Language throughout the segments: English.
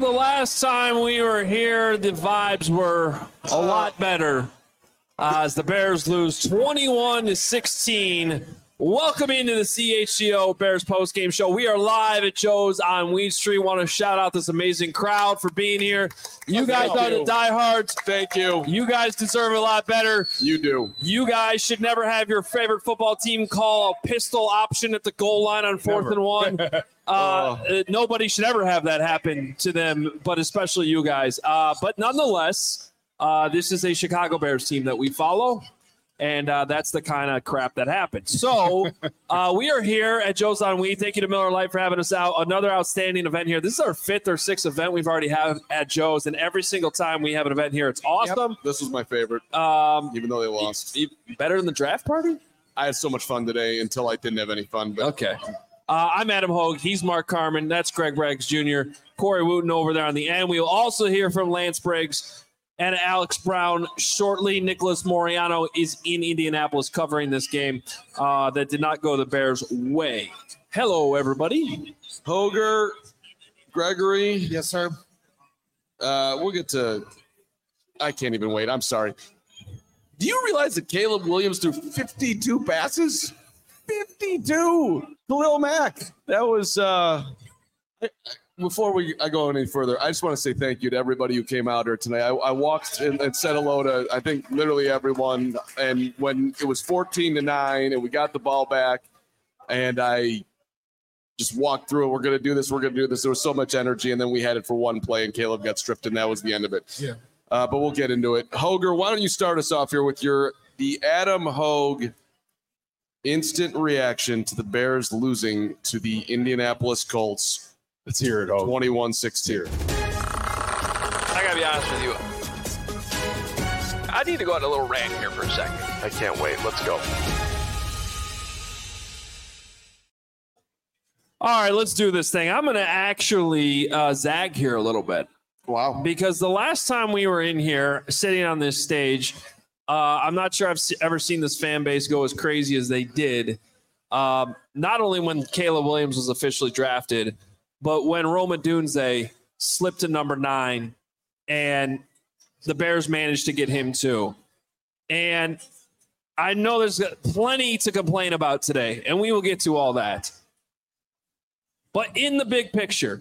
the last time we were here, the vibes were a lot better as the Bears lose 21-16. Welcome into the CHGO Bears postgame show. We are live at Joe's on Weed Street. Want to shout out this amazing crowd for being here. You guys are the diehards. Thank you. You guys deserve a lot better. You do. You guys should never have your favorite football team call a pistol option at the goal line on 4th and 1. Nobody should ever have that happen to them, but especially you guys. But nonetheless, this is a Chicago Bears team that we follow. And that's the kind of crap that happens. So we are here at Joe's on Weed. Thank you to Miller Lite for having us out. Another outstanding event here. This is our 5th or 6th event we've already had at Joe's. And every single time we have an event here, it's awesome. Yep. This was my favorite, even though they lost. Better than the draft party? I had so much fun today until I didn't have any fun. But. Okay. I'm Adam Hogue. He's Mark Carman. That's Greg Braggs Jr. Corey Wooten over there on the end. We will also hear from Lance Briggs and Alex Brown shortly. Nicholas Moriano is in Indianapolis covering this game that did not go the Bears' way. Hello, everybody. Hoger, Gregory. Yes, sir. We'll get to – I can't even wait. I'm sorry. Do you realize that Caleb Williams threw 52 passes? 52! Khalil Mack. That was before I go any further, I just want to say thank you to everybody who came out here tonight. I walked and said hello to, I think, literally everyone. And when it was 14-9 and we got the ball back and I just walked through it, we're going to do this, we're going to do this. There was so much energy, and then we had it for one play, and Caleb got stripped, and that was the end of it. Yeah. But we'll get into it. Hoger, why don't you start us off here with the Adam Hogue instant reaction to the Bears losing to the Indianapolis Colts. Let's hear it, Hogue. 21-16. I gotta be honest with you. I need to go on a little rant here for a second. I can't wait. Let's go. All right, let's do this thing. I'm going to actually zag here a little bit. Wow. Because the last time we were in here sitting on this stage, I'm not sure I've ever seen this fan base go as crazy as they did. Not only when Caleb Williams was officially drafted, but when Rome Odunze slipped to number 9 and the Bears managed to get him too. And I know there's plenty to complain about today, and we will get to all that. But in the big picture,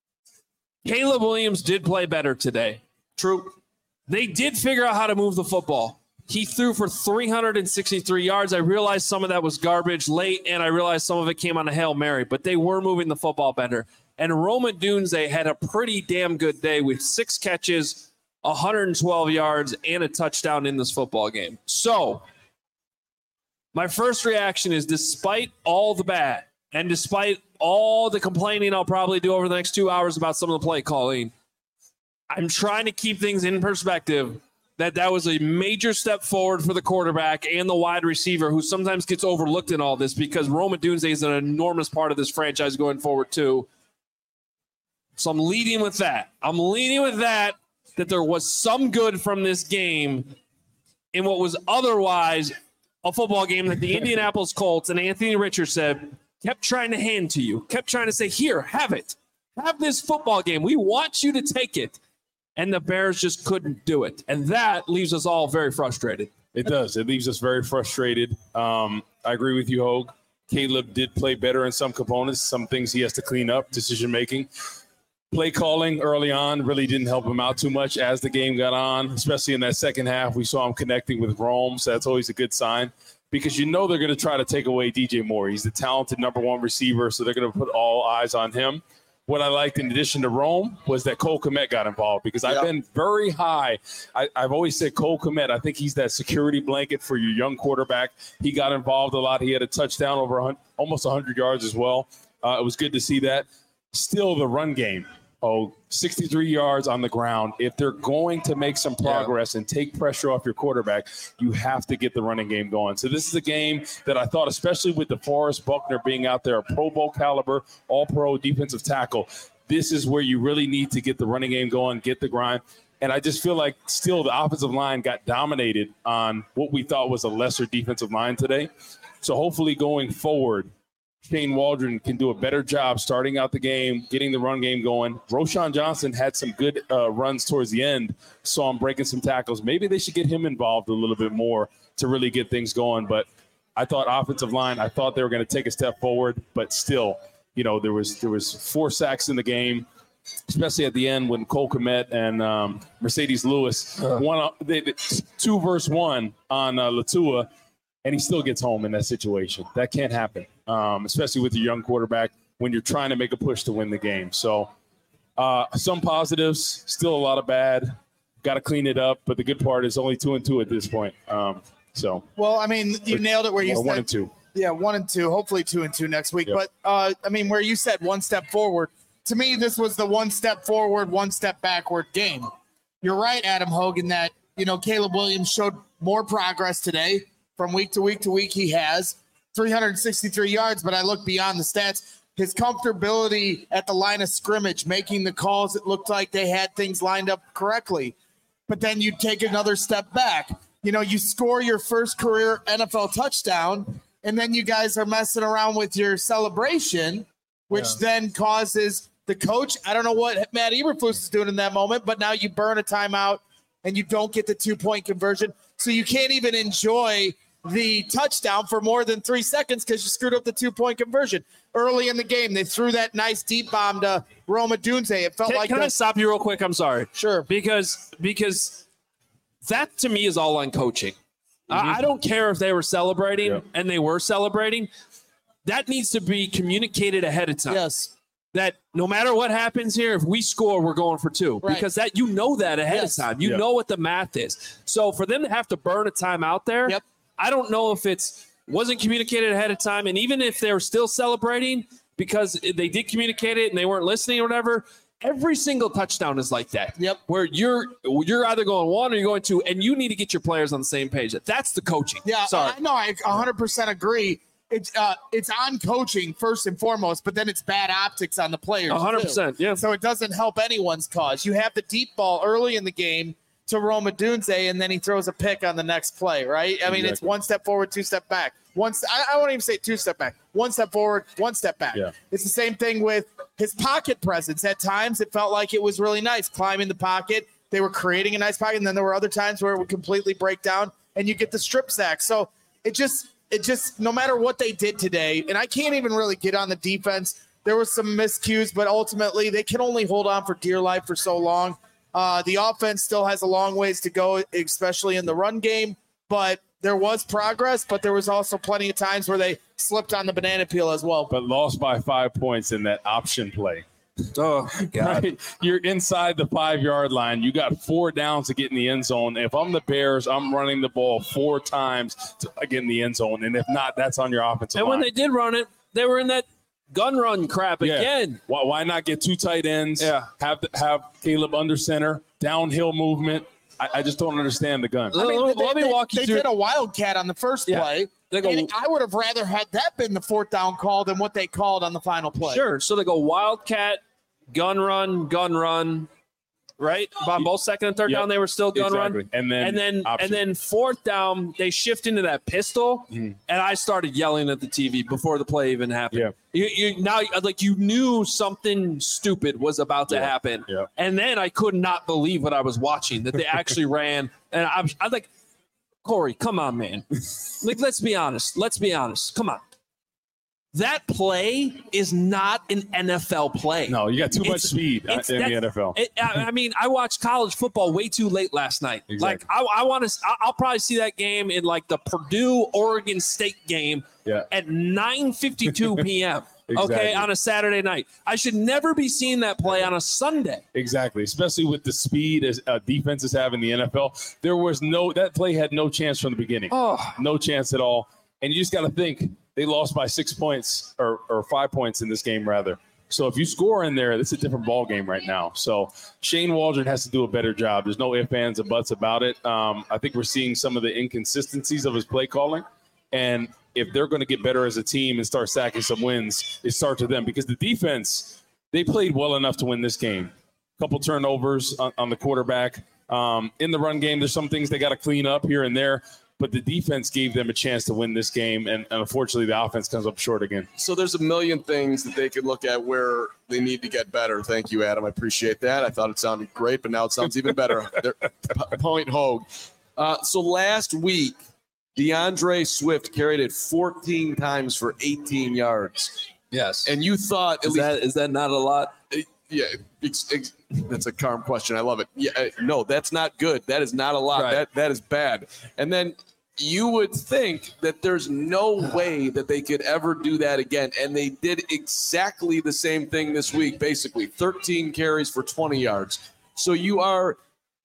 Caleb Williams did play better today. True. They did figure out how to move the football. He threw for 363 yards. I realized some of that was garbage late, and I realized some of it came on a Hail Mary, but they were moving the football better. And Rome Odunze had a pretty damn good day with 6 catches, 112 yards, and a touchdown in this football game. So my first reaction is, despite all the bad and despite all the complaining I'll probably do over the next 2 hours about some of the play calling, I'm trying to keep things in perspective that was a major step forward for the quarterback and the wide receiver, who sometimes gets overlooked in all this because Rome Odunze is an enormous part of this franchise going forward too. So I'm leading with that. That there was some good from this game in what was otherwise a football game that the Indianapolis Colts and Anthony Richardson kept trying to hand to you, kept trying to say, here, have it. Have this football game. We want you to take it. And the Bears just couldn't do it. And that leaves us all very frustrated. It does. It leaves us very frustrated. I agree with you, Hogue. Caleb did play better in some components, some things he has to clean up, decision-making. Play calling early on really didn't help him out too much as the game got on, especially in that second half. We saw him connecting with Rome, so that's always a good sign because you know they're going to try to take away DJ Moore. He's the talented number 1 receiver, so they're going to put all eyes on him. What I liked in addition to Rome was that Cole Kmet got involved because I've been very high. I've always said Cole Kmet, I think he's that security blanket for your young quarterback. He got involved a lot. He had a touchdown over almost 100 yards as well. It was good to see that. Still the run game. 63 yards on the ground. If they're going to make some progress and take pressure off your quarterback, you have to get the running game going. So this is a game that I thought, especially with DeForest Buckner being out there, a Pro Bowl caliber, all-pro defensive tackle, this is where you really need to get the running game going, get the grind. And I just feel like still the offensive line got dominated on what we thought was a lesser defensive line today. So hopefully going forward, Shane Waldron can do a better job starting out the game, getting the run game going. Roschon Johnson had some good runs towards the end, saw him breaking some tackles. Maybe they should get him involved a little bit more to really get things going. But I thought offensive line, I thought they were going to take a step forward, but still, there was 4 sacks in the game, especially at the end when Cole Kmet and Mercedes Lewis won 2 versus 1 on Latua, and he still gets home in that situation. That can't happen, especially with your young quarterback when you're trying to make a push to win the game. So some positives, still a lot of bad. Got to clean it up, but the good part is only 2-2 at this point. Well, I mean, you nailed it where you said 1-2. Yeah, 1-2. Hopefully 2-2 next week. Yep. But I mean, where you said 1 step forward, to me, this was the 1 step forward, 1 step backward game. You're right, Adam Hogan, that Caleb Williams showed more progress today from week to week to week. He has 363 yards, but I look beyond the stats. His comfortability at the line of scrimmage, making the calls, it looked like they had things lined up correctly. But then you take another step back. You score your first career NFL touchdown, and then you guys are messing around with your celebration, which then causes the coach. I don't know what Matt Eberflus is doing in that moment, but now you burn a timeout and you don't get the 2-point conversion. So you can't even enjoy the touchdown for more than 3 seconds because you screwed up the 2-point conversion. Early in the game, they threw that nice deep bomb to Rome Odunze. It felt like. Can I stop you real quick? I'm sorry. Sure. Because that to me is all on coaching. I don't care if they were celebrating and they were celebrating. That needs to be communicated ahead of time. Yes. That no matter what happens here, if we score, we're going for 2. Right. Because that that ahead of time. You know what the math is. So for them to have to burn a time out there, I don't know if wasn't communicated ahead of time. And even if they were still celebrating because they did communicate it and they weren't listening or whatever, every single touchdown is like that. Yep. Where you're either going 1 or you're going 2, and you need to get your players on the same page. That's the coaching. Yeah, sorry. No, I 100% agree. It's on coaching first and foremost, but then it's bad optics on the players. 100%. Yeah. So it doesn't help anyone's cause. You have the deep ball early in the game to Rome Odunze, and then he throws a pick on the next play, right? I mean, it's 1 step forward, 2 step back. I won't even say 2 step back. 1 step forward, 1 step back. Yeah. It's the same thing with his pocket presence. At times, it felt like it was really nice, climbing the pocket. They were creating a nice pocket, and then there were other times where it would completely break down, and you get the strip sack. So it just no matter what they did today, and I can't even really get on the defense. There were some miscues, but ultimately they can only hold on for dear life for so long. The offense still has a long ways to go, especially in the run game, but there was progress, but there was also plenty of times where they slipped on the banana peel as well. But lost by 5 points in that option play. Oh, God. Right? You're inside the 5-yard line. You got 4 downs to get in the end zone. If I'm the Bears, I'm running the ball 4 times to get in the end zone. And if not, that's on your offensive line. And when they did run it, they were in that gun run crap again. Why not get 2 tight ends? Yeah. Have Caleb under center, downhill movement. I just don't understand the gun. I mean, let me walk you through. They did a wildcat on the first play. And I would have rather had that been the 4th down call than what they called on the final play. Sure. So they go wildcat, gun run, right? On both 2nd and 3rd down, they were still gun run. And then 4th down, they shift into that pistol, and I started yelling at the TV before the play even happened. Yeah. You knew something stupid was about to happen. Yeah. And then I could not believe what I was watching, that they actually ran. And I'm like, Corey, come on, man. Let's be honest. Come on. That play is not an NFL play. No, you got too much speed in the NFL. I watched college football way too late last night. Exactly. I'll probably see that game in the Purdue-Oregon State game at 9:52 p.m. Exactly. Okay, on a Saturday night. I should never be seeing that play on a Sunday. Exactly, especially with the speed as defenses have in the NFL. That play had no chance from the beginning. No chance at all. And you just got to think, they lost by 6 points or 5 points in this game, rather. So if you score in there, it's a different ball game right now. So Shane Waldron has to do a better job. There's no ifs, ands, or buts about it. I think we're seeing some of the inconsistencies of his play calling. And if they're going to get better as a team and start sacking some wins, it starts with them. Because the defense, they played well enough to win this game. A couple turnovers on the quarterback. In the run game, there's some things they got to clean up here and there. but the defense gave them a chance to win this game, and unfortunately the offense comes up short again. So there's a million things that they could look at where they need to get better. Thank you, Adam. I appreciate that. I thought it sounded great, but now it sounds even better. Point Hogue. So last week, DeAndre Swift carried it 14 times for 18 yards. Yes. And you thought is that not a lot? Yeah, that's a calm question. I love it. Yeah, no, that's not good. That is not a lot. Right. That is bad. And then you would think that there's no way that they could ever do that again. And they did exactly the same thing this week, basically 13 carries for 20 yards. So you are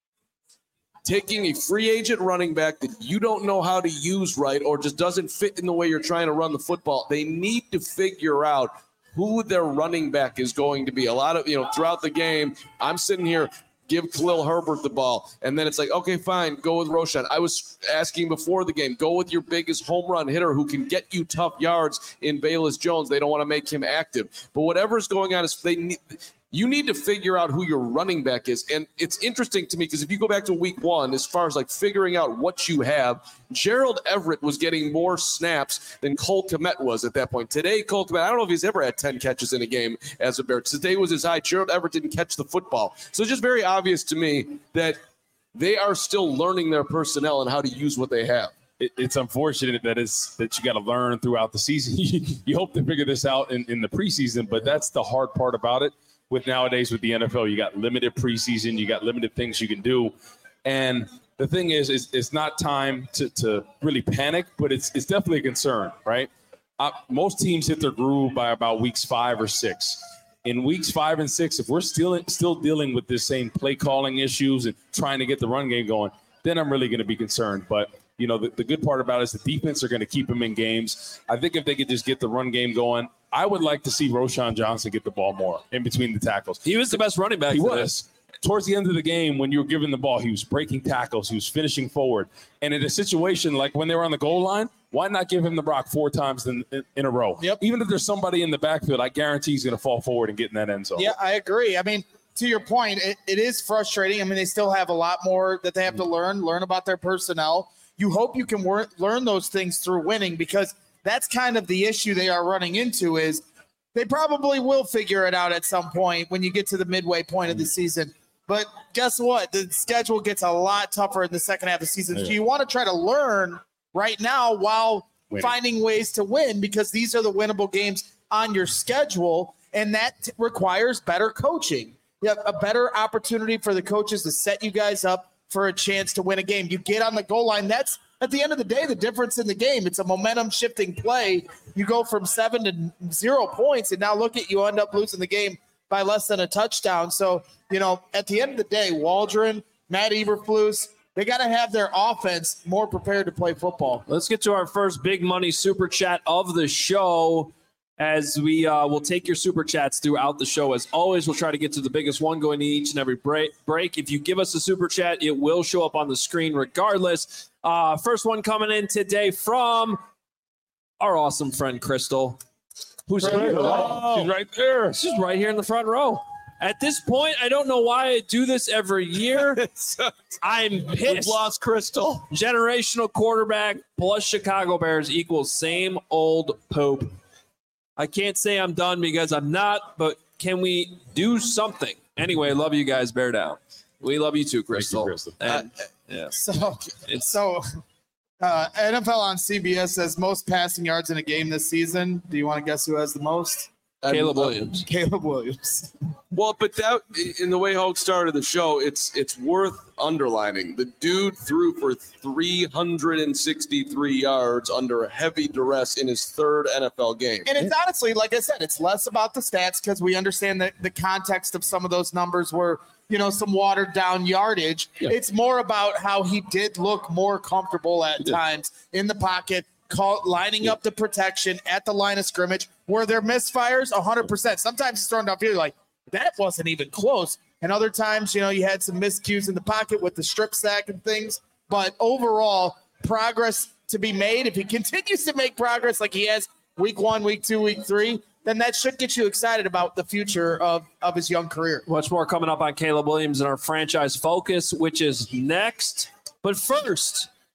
taking a free agent running back that you don't know how to use right or just doesn't fit in the way you're trying to run the football. They need to figure out who their running back is going to be. A lot of, throughout the game, I'm sitting here, give Khalil Herbert the ball. And then it's like, okay, fine, go with Roschon. I was asking before the game, go with your biggest home run hitter who can get you tough yards in Velus Jones. They don't want to make him active. But whatever's going on is you need to figure out who your running back is. And it's interesting to me because if you go back to week 1, as far as like figuring out what you have, Gerald Everett was getting more snaps than Cole Kmet was at that point. Today, Cole Kmet, I don't know if he's ever had 10 catches in a game as a Bear. Today was his high. Gerald Everett didn't catch the football. So it's just very obvious to me that they are still learning their personnel and how to use what they have. It's unfortunate that you got to learn throughout the season. You hope to figure this out in the preseason, but that's the hard part about it. With nowadays with the NFL, you got limited preseason, you got limited things you can do. And the thing is it's not time to really panic, but it's definitely a concern, right? Most teams hit their groove by about weeks 5 or 6. In weeks 5 and 6, if we're still dealing with this same play calling issues and trying to get the run game going, then I'm really going to be concerned. But the good part about it is the defense are going to keep them in games. I think if they could just get the run game going, I would like to see Roschon Johnson get the ball more in between the tackles. He was the best running back. He was. Towards the end of the game, when you were giving the ball, he was breaking tackles. He was finishing forward. And in a situation like when they were on the goal line, why not give him the rock 4 times in a row? Yep. Even if there's somebody in the backfield, I guarantee he's going to fall forward and get in that end zone. Yeah, I agree. I mean, to your point, it is frustrating. I mean, they still have a lot more that they have to learn about their personnel. You hope you can learn those things through winning because that's kind of the issue they are running into is they probably will figure it out at some point when you get to the midway point of the season. But guess what? The schedule gets a lot tougher in the second half of the season. So you want to try to learn right now while finding ways to win because these are the winnable games on your schedule, and that requires better coaching. You have a better opportunity for the coaches to set you guys up for a chance to win a game. You get on the goal line. That's, at the end of the day, the difference in the game. It's a momentum-shifting play. You go from 7 to 0 points, and now look at you end up losing the game by less than a touchdown. So, at the end of the day, Waldron, Matt Eberflus, they got to have their offense more prepared to play football. Let's get to our first big money super chat of the show. As we will take your super chats throughout the show. As always, we'll try to get to the biggest one going to each and every break. If you give us a super chat, it will show up on the screen regardless. First one coming in today from our awesome friend Crystal. Who's here? Oh, she's right there. She's right here in the front row. At this point, I don't know why I do this every year. I'm pissed. We've lost Crystal. Generational quarterback plus Chicago Bears equals same old Pope. I can't say I'm done because I'm not, but can we do something? Anyway, love you guys. Bear down. We love you too, Crystal. Thank you, Crystal. And, yeah. So NFL on CBS says most passing yards in a game this season. Do you want to guess who has the most? Caleb Williams. Caleb Williams. Well, but that, in the way Hogue started the show, it's worth underlining. The dude threw for 363 yards under heavy duress in his 3rd NFL game. And it's honestly, like I said, it's less about the stats because we understand that the context of some of those numbers were, some watered down yardage. Yeah. It's more about how he did look more comfortable at times in the pocket, lining up the protection at the line of scrimmage. Were there misfires? 100%. Sometimes it's thrown downfield, like, that wasn't even close. And other times, you had some miscues in the pocket with the strip sack and things. But overall, progress to be made. If he continues to make progress like he has week 1, week 2, week 3, then that should get you excited about the future of his young career. Much more coming up on Caleb Williams and our franchise focus, which is next. But first,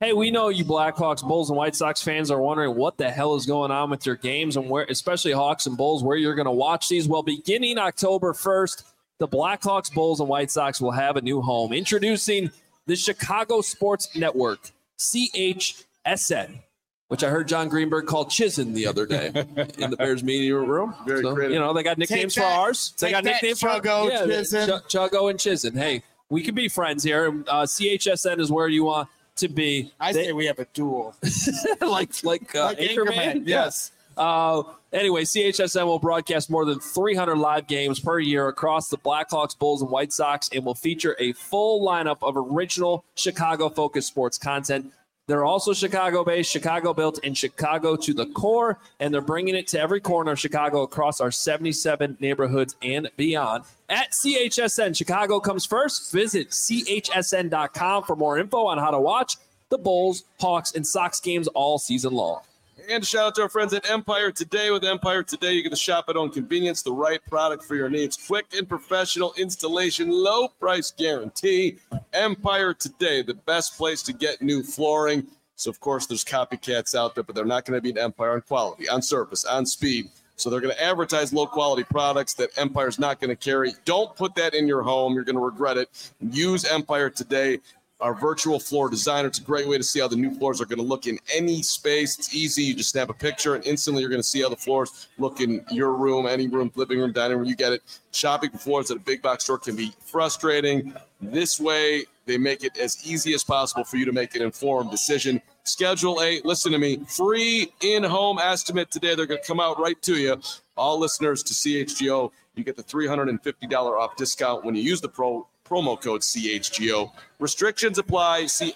Hey, we know you Blackhawks, Bulls, and White Sox fans are wondering what the hell is going on with your games and where, especially Hawks and Bulls, where you're going to watch these. Well, beginning October 1st, the Blackhawks, Bulls, and White Sox will have a new home. Introducing the Chicago Sports Network, CHSN, which I heard John Greenberg call Chizen the other day in the Bears meeting room. Very creative. You know, they got nicknames for ours. They got nicknames for Chuggo, Chizen. Chuggo and Chizen. Hey, we can be friends here. CHSN is where you want to be. I say we have a duel. like Anchorman? Yes. Anyway, CHSN will broadcast more than 300 live games per year across the Blackhawks, Bulls, and White Sox, and will feature a full lineup of original Chicago-focused sports content. They're also Chicago-based, Chicago-built, and Chicago to the core, and they're bringing it to every corner of Chicago across our 77 neighborhoods and beyond. At CHSN, Chicago comes first. Visit chsn.com for more info on how to watch the Bulls, Hawks, and Sox games all season long. And shout out to our friends at Empire Today. With Empire Today, you get to shop at own convenience, the right product for your needs. Quick and professional installation, low price guarantee. Empire Today, the best place to get new flooring. So, of course, there's copycats out there, but they're not going to beat Empire on quality, on service, on speed. So they're going to advertise low-quality products that Empire's not going to carry. Don't put that in your home. You're going to regret it. Use Empire Today. Our virtual floor designer. It's a great way to see how the new floors are going to look in any space. It's easy. You just snap a picture, and instantly you're going to see how the floors look in your room, any room, living room, dining room. You get it. Shopping for floors at a big box store can be frustrating. This way, they make it as easy as possible for you to make an informed decision. Schedule a, listen to me, free in-home estimate today. They're going to come out right to you. All listeners to CHGO, you get the $350 off discount when you use the promo code CHGO. Restrictions apply. See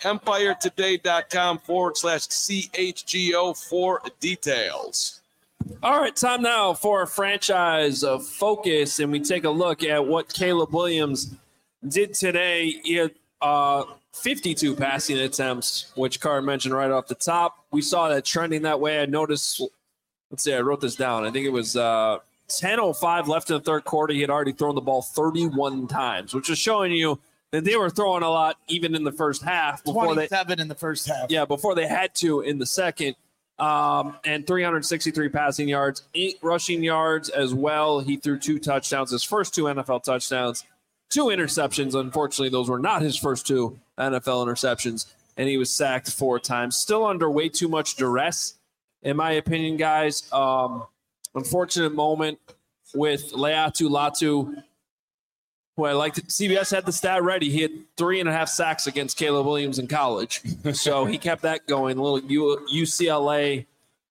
empiretoday.com/CHGO for details. All right, time now for a franchise of focus, and we take a look at what Caleb Williams did today. He had 52 passing attempts, which Carr mentioned right off the top. We saw that trending that way. I noticed, let's see, I wrote this down. I think it was 10:05 left in the third quarter. He had already thrown the ball 31 times, which is showing you that they were throwing a lot even in the first half. 27 in the first half. Yeah, before they had to in the second. And 363 passing yards, 8 rushing yards as well. He threw 2 touchdowns, his first 2 NFL touchdowns, 2 interceptions. Unfortunately, those were not his first 2 NFL interceptions, and he was sacked 4 times. Still under way too much duress, in my opinion, guys. Unfortunate moment with Laiatu Latu, who I liked. CBS had the stat ready. He had 3.5 sacks against Caleb Williams in college. So he kept that going. A little UCLA,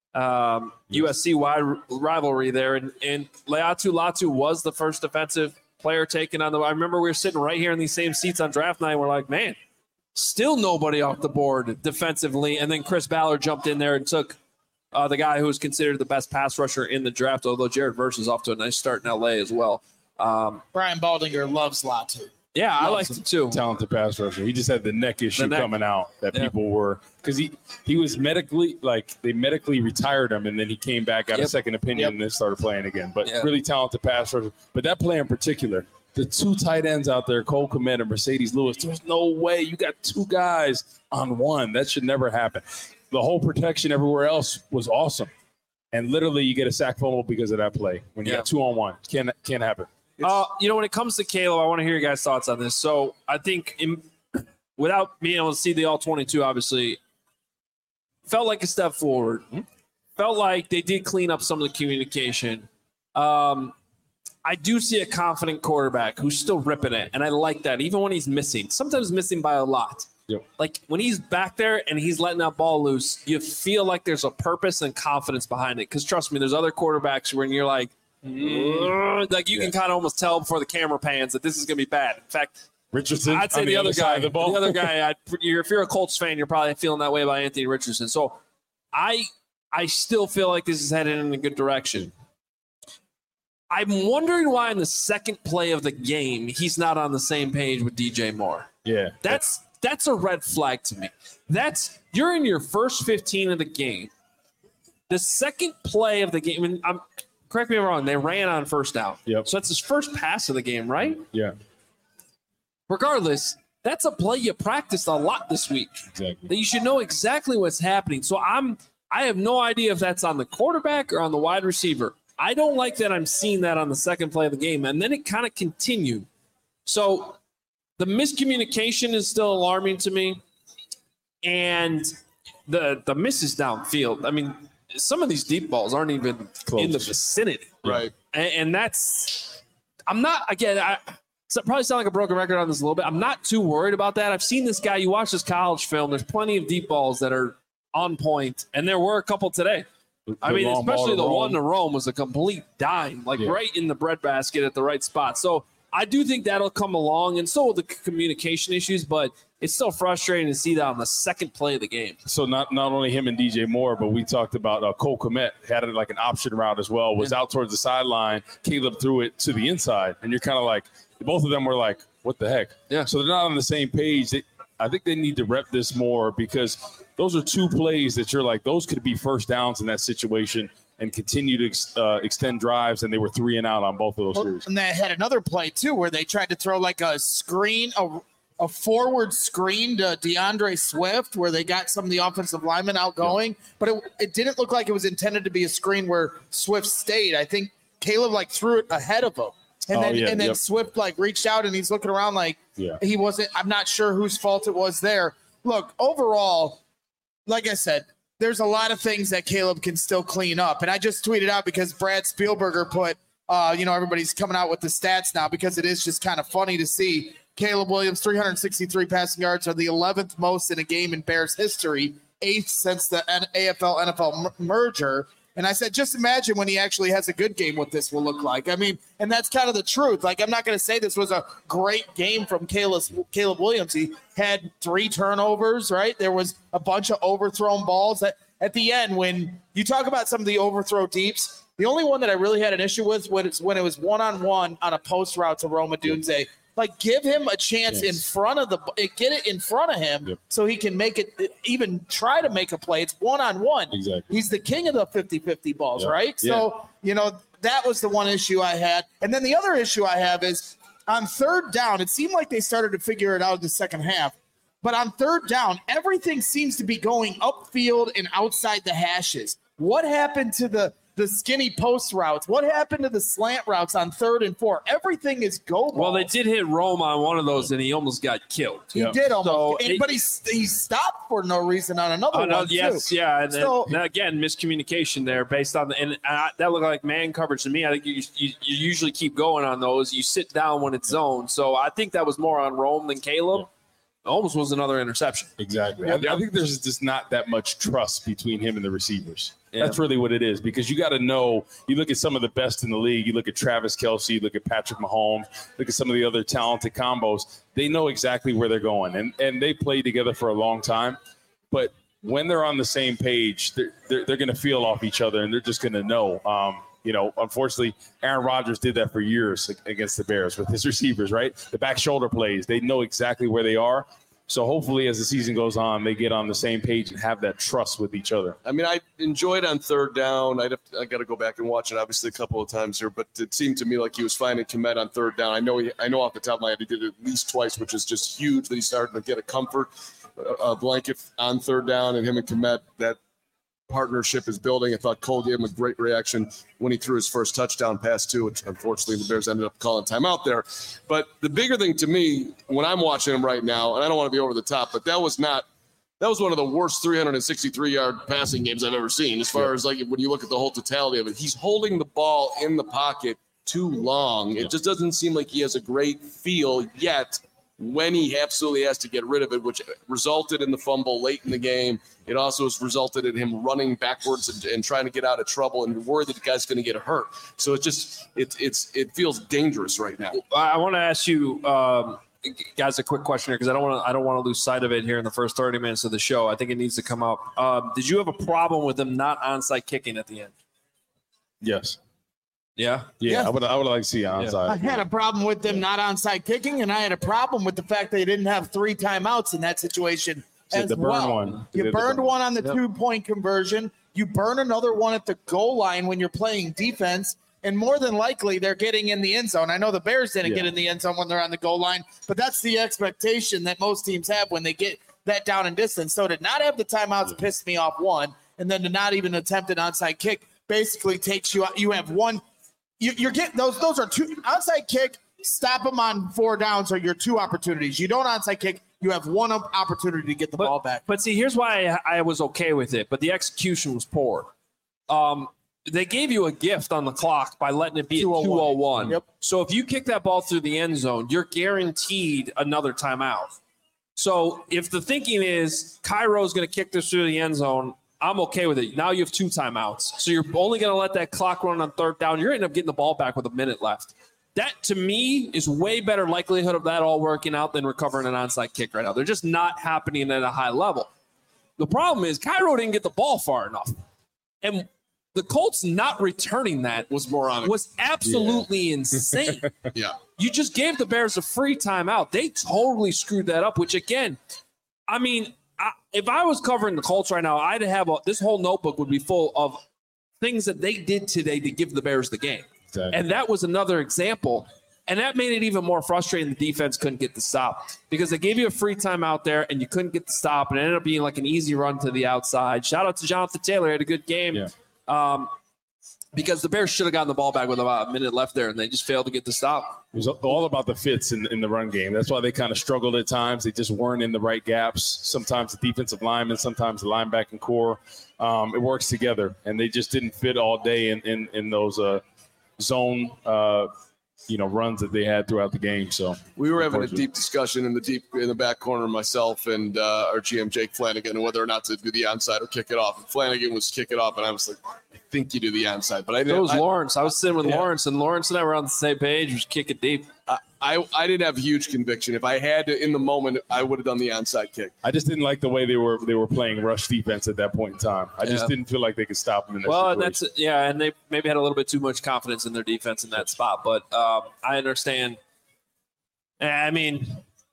USC rivalry there. And Laiatu Latu was the first defensive player taken on the – I remember we were sitting right here in these same seats on draft night. And we're like, man, still nobody off the board defensively. And then Chris Ballard jumped in there and took the guy who was considered the best pass rusher in the draft, although Jared Verse is off to a nice start in L.A. as well. Brian Baldinger loves Latu. Yeah, I liked it too. Talented pass rusher. He just had the neck issue coming out that people were – because he was medically – like they medically retired him, and then he came back, got a second opinion, and then started playing again. But really talented pass rusher. But that play in particular, the 2 tight ends out there, Cole Kmet and Mercedes Lewis, there's no way you got 2 guys on 1. That should never happen. The whole protection everywhere else was awesome. And literally you get a sack fumble because of that play. When you got 2-on-1, can't happen. When it comes to Caleb, I want to hear your guys' thoughts on this. So I think without being able to see the all 22, obviously, felt like a step forward. Felt like they did clean up some of the communication. I do see a confident quarterback who's still ripping it, and I like that, even when he's missing. Sometimes missing by a lot. Yep. Like when he's back there and he's letting that ball loose, you feel like there's a purpose and confidence behind it. Because trust me, there's other quarterbacks when you're like you can kind of almost tell before the camera pans that this is going to be bad. In fact, Richardson, I'd say the other guy, if you're a Colts fan, you're probably feeling that way about Anthony Richardson. So I still feel like this is headed in a good direction. I'm wondering why in the second play of the game he's not on the same page with DJ Moore. Yeah, That's a red flag to me. You're in your first 15 of the game. The second play of the game, and correct me if I'm wrong, they ran on first down. Yep. So that's his first pass of the game, right? Yeah. Regardless, that's a play you practiced a lot this week. Exactly. That you should know exactly what's happening. So I have no idea if that's on the quarterback or on the wide receiver. I don't like that I'm seeing that on the second play of the game. And then it kind of continued. So the miscommunication is still alarming to me. And the misses downfield. I mean, some of these deep balls aren't even in the vicinity. Right. And that's – I'm not – again, I probably sound like a broken record on this a little bit. I'm not too worried about that. I've seen this guy. You watch this college film. There's plenty of deep balls that are on point, and there were a couple today. I mean, especially the one to Rome was a complete dime, right in the breadbasket at the right spot. So I do think that'll come along, and so will the communication issues, but it's still frustrating to see that on the second play of the game. So not only him and DJ Moore, but we talked about Cole Kmet had it like an option route as well, was out towards the sideline. Caleb threw it to the inside, and you're kind of like, both of them were like, what the heck? Yeah. So they're not on the same page. I think they need to rep this more because those are two plays that you're like, those could be first downs in that situation and continue to extend drives, and they were 3 and out on both of those series. And they had another play, too, where they tried to throw like a screen, a forward screen to DeAndre Swift where they got some of the offensive linemen outgoing, but it didn't look like it was intended to be a screen where Swift stayed. I think Caleb threw it ahead of him. And then Swift reached out and he's looking around like he wasn't. I'm not sure whose fault it was there. Look, overall, like I said, there's a lot of things that Caleb can still clean up. And I just tweeted out because Brad Spielberger put, everybody's coming out with the stats now because it is just kind of funny to see Caleb Williams, 363 passing yards are the 11th most in a game in Bears history, 8th since the AFL-NFL merger. And I said, just imagine when he actually has a good game what this will look like. I mean, and that's kind of the truth. I'm not going to say this was a great game from Caleb Williams. He had 3 turnovers, right? There was a bunch of overthrown balls. At the end, when you talk about some of the overthrow deeps, the only one that I really had an issue with was when it was one-on-one on a post route to Rome Odunze. Give him a chance in front of get it in front of him so he can make it, even try to make a play. It's one-on-one. Exactly. He's the king of the 50-50 balls, right? So, that was the one issue I had. And then the other issue I have is on third down, it seemed like they started to figure it out in the second half. But on third down, everything seems to be going upfield and outside the hashes. What happened to the skinny post routes? What happened to the slant routes on 3rd and 4? Everything is go ball. Well, they did hit Rome on one of those, and he almost got killed. He did almost. But he stopped for no reason on another one, yes, too. Yeah. And again, miscommunication there based on that looked like man coverage to me. I think you usually keep going on those. You sit down when it's zoned. So I think that was more on Rome than Caleb. Yeah. Almost was another interception. Exactly. I think there's just not that much trust between him and the receivers. Yeah. That's really what it is, because you got to know, you look at some of the best in the league, you look at Travis Kelce, you look at Patrick Mahomes, look at some of the other talented combos, they know exactly where they're going, and they play together for a long time. But when they're on the same page, they're going to feel off each other, and they're just going to know. Unfortunately, Aaron Rodgers did that for years against the Bears with his receivers, right? The back shoulder plays, they know exactly where they are. So hopefully as the season goes on, they get on the same page and have that trust with each other. I mean, I enjoyed on third down. I got to go back and watch it, obviously, a couple of times here, but it seemed to me like he was finding Kmet on third down. I know off the top of my head he did it at least twice, which is just huge that he's starting to get a comfort blanket on third down, and him and Kmet, that partnership is building. I thought Cole gave him a great reaction when he threw his first touchdown pass too, which unfortunately the Bears ended up calling timeout there. But the bigger thing to me when I'm watching him right now, and I don't want to be over the top, but that was one of the worst 363-yard passing games I've ever seen. As far as when you look at the whole totality of it, he's holding the ball in the pocket too long. It just doesn't seem like he has a great feel yet when he absolutely has to get rid of it, which resulted in the fumble late in the game. It also has resulted in him running backwards and trying to get out of trouble, and you're worried that the guy's going to get hurt. So it feels dangerous right now. I want to ask you guys a quick question here, because I don't want to lose sight of it here in the first 30 minutes of the show. I think it needs to come up. Did you have a problem with them not onside kicking at the end? Yes. Yeah. I would like to see onside. I had a problem with them not onside kicking, and I had a problem with the fact they didn't have 3 timeouts in that situation as well. You burned one on the 2-point conversion. You burn another one at the goal line when you're playing defense, and more than likely they're getting in the end zone. I know the Bears didn't get in the end zone when they're on the goal line, but that's the expectation that most teams have when they get that down and distance. So to not have the timeouts pissed me off, one, and then to not even attempt an onside kick basically takes you out. You have one. You're getting those are two onside kick. Stop them on 4 downs are your 2 opportunities. You don't onside kick. You have 1 opportunity to get the ball back. But see, here's why I was okay with it, but the execution was poor. They gave you a gift on the clock by letting it be at 2:01. Yep. So if you kick that ball through the end zone, you're guaranteed another timeout. So if the thinking is Cairo's going to kick this through the end zone, I'm okay with it. Now you have 2 timeouts. So you're only going to let that clock run on 3rd down. You're going to end up getting the ball back with a minute left. That, to me, is way better likelihood of that all working out than recovering an onside kick right now. They're just not happening at a high level. The problem is Cairo didn't get the ball far enough. And the Colts not returning that was moronic. Was absolutely insane. Yeah. You just gave the Bears a free timeout. They totally screwed that up, which, again, I mean, if I was covering the Colts right now, I'd have this whole notebook would be full of things that they did today to give the Bears the game. Exactly. And that was another example. And that made it even more frustrating. The defense couldn't get the stop because they gave you a free time out there and you couldn't get the stop. And it ended up being like an easy run to the outside. Shout out to Jonathan Taylor. He had a good game. Yeah. Because the Bears should have gotten the ball back with about a minute left there, and they just failed to get the stop. It was all about the fits in the run game. That's why they kind of struggled at times. They just weren't in the right gaps. Sometimes the defensive linemen, sometimes the linebacking core. It works together, and they just didn't fit all day in those zone runs that they had throughout the game. So we were having a deep discussion in the back corner, myself and our GM Jake Flanagan, whether or not to do the onside or kick it off. And Flanagan was kick it off, and I was like, I think you do the onside, but I didn't. It was Lawrence. I was sitting with Lawrence, and Lawrence and I were on the same page. Just kick it deep. I didn't have huge conviction. If I had to in the moment, I would have done the onside kick. I just didn't like the way they were playing rush defense at that point in time. I just didn't feel like they could stop them in that situation. And they maybe had a little bit too much confidence in their defense in that spot. But I understand. I mean,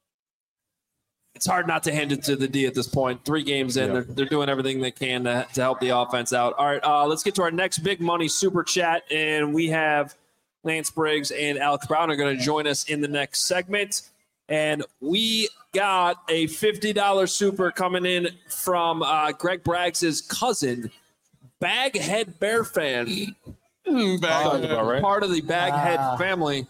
it's hard not to hand it to the D at this point. 3 games in, they're doing everything they can to help the offense out. All right, let's get to our next big money super chat, and we have Lance Briggs and Alex Brown are going to join us in the next segment. And we got a $50 super coming in from Greg Braggs' cousin, Baghead Bear fan. Part of the Baghead family.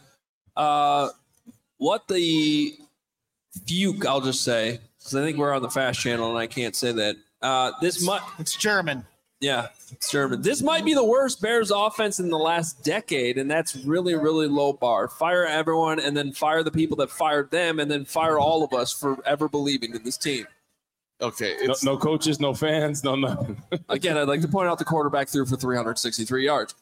What the fuke, I'll just say, because I think we're on the Fast Channel and I can't say that. It's German. Yeah, it's German. This might be the worst Bears offense in the last decade, and that's really, really low bar. Fire everyone and then fire the people that fired them and then fire all of us for ever believing in this team. Okay. No coaches, no fans, no nothing. Again, I'd like to point out the quarterback threw for 363 yards.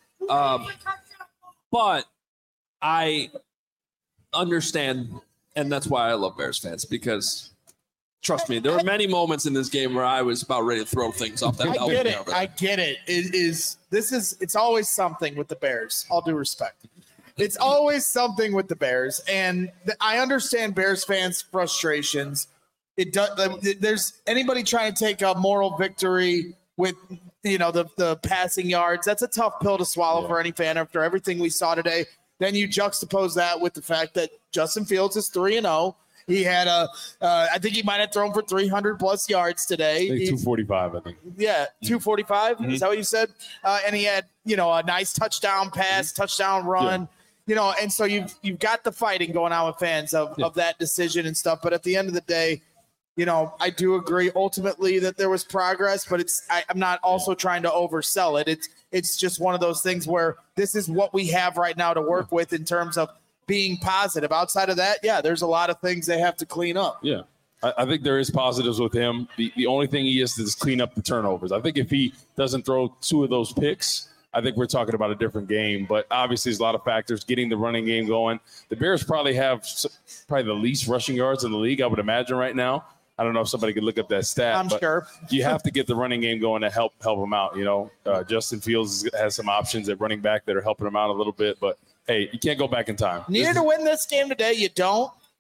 But I understand, and that's why I love Bears fans, because trust me, there were many moments in this game where I was about ready to throw things off that balcony. I get it. It's always something with the Bears. All due respect. It's always something with the Bears. And I understand Bears fans' frustrations. There's anybody trying to take a moral victory with, the passing yards. That's a tough pill to swallow for any fan after everything we saw today. Then you juxtapose that with the fact that Justin Fields is 3-0. He had I think he might have thrown for 300+ yards today. 245, I think. Yeah, 245. Mm-hmm. Is that what you said? And he had, a nice touchdown pass, touchdown run. Yeah. And so you've got the fighting going on with fans of that decision and stuff. But at the end of the day, I do agree ultimately that there was progress, but I'm not also trying to oversell it. It's just one of those things where this is what we have right now to work with in terms of being positive. Outside of that, there's a lot of things they have to clean up. Yeah, I think there is positives with him. The only thing he has to is clean up the turnovers. I think if he doesn't throw 2 of those picks, I think we're talking about a different game. But obviously, there's a lot of factors getting the running game going. The Bears probably have the least rushing yards in the league, I would imagine, right now. I don't know if somebody could look up that stat. I'm sure. You have to get the running game going to help them out. Justin Fields has some options at running back that are helping him out a little bit, but hey, you can't go back in time. Needed to win this game today. You don't.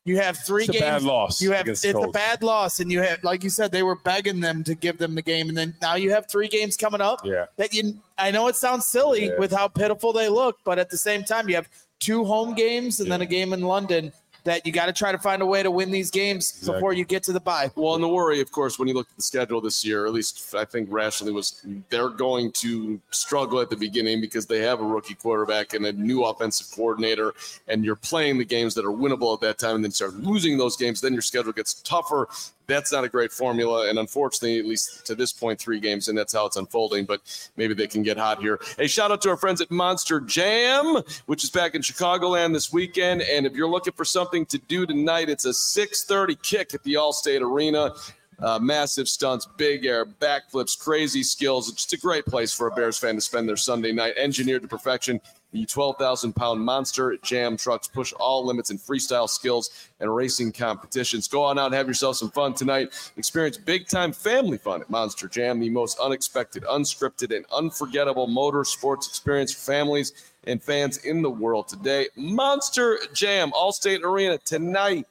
You have three It's games. a bad loss. It's a bad loss, and you have, like you said, they were begging them to give them the game, and then now you have 3 games coming up. Yeah. I know it sounds silly with how pitiful they look, but at the same time, you have 2 home games and then a game in London. That you got to try to find a way to win these games before you get to the bye. Well, and the worry, of course, when you look at the schedule this year, at least I think rationally, was they're going to struggle at the beginning because they have a rookie quarterback and a new offensive coordinator, and you're playing the games that are winnable at that time and then start losing those games. Then your schedule gets tougher. That's not a great formula, and unfortunately, at least to this point, 3 games, and that's how it's unfolding, but maybe they can get hot here. Hey, shout out to our friends at Monster Jam, which is back in Chicagoland this weekend, and if you're looking for something to do tonight, it's a 6:30 kick at the Allstate Arena. Massive stunts, big air, backflips, crazy skills. It's just a great place for a Bears fan to spend their Sunday night. Engineered to perfection, the 12,000-pound Monster Jam trucks push all limits in freestyle skills and racing competitions. Go on out and have yourself some fun tonight. Experience big-time family fun at Monster Jam, the most unexpected, unscripted, and unforgettable motorsports experience for families and fans in the world today. Monster Jam, Allstate Arena tonight,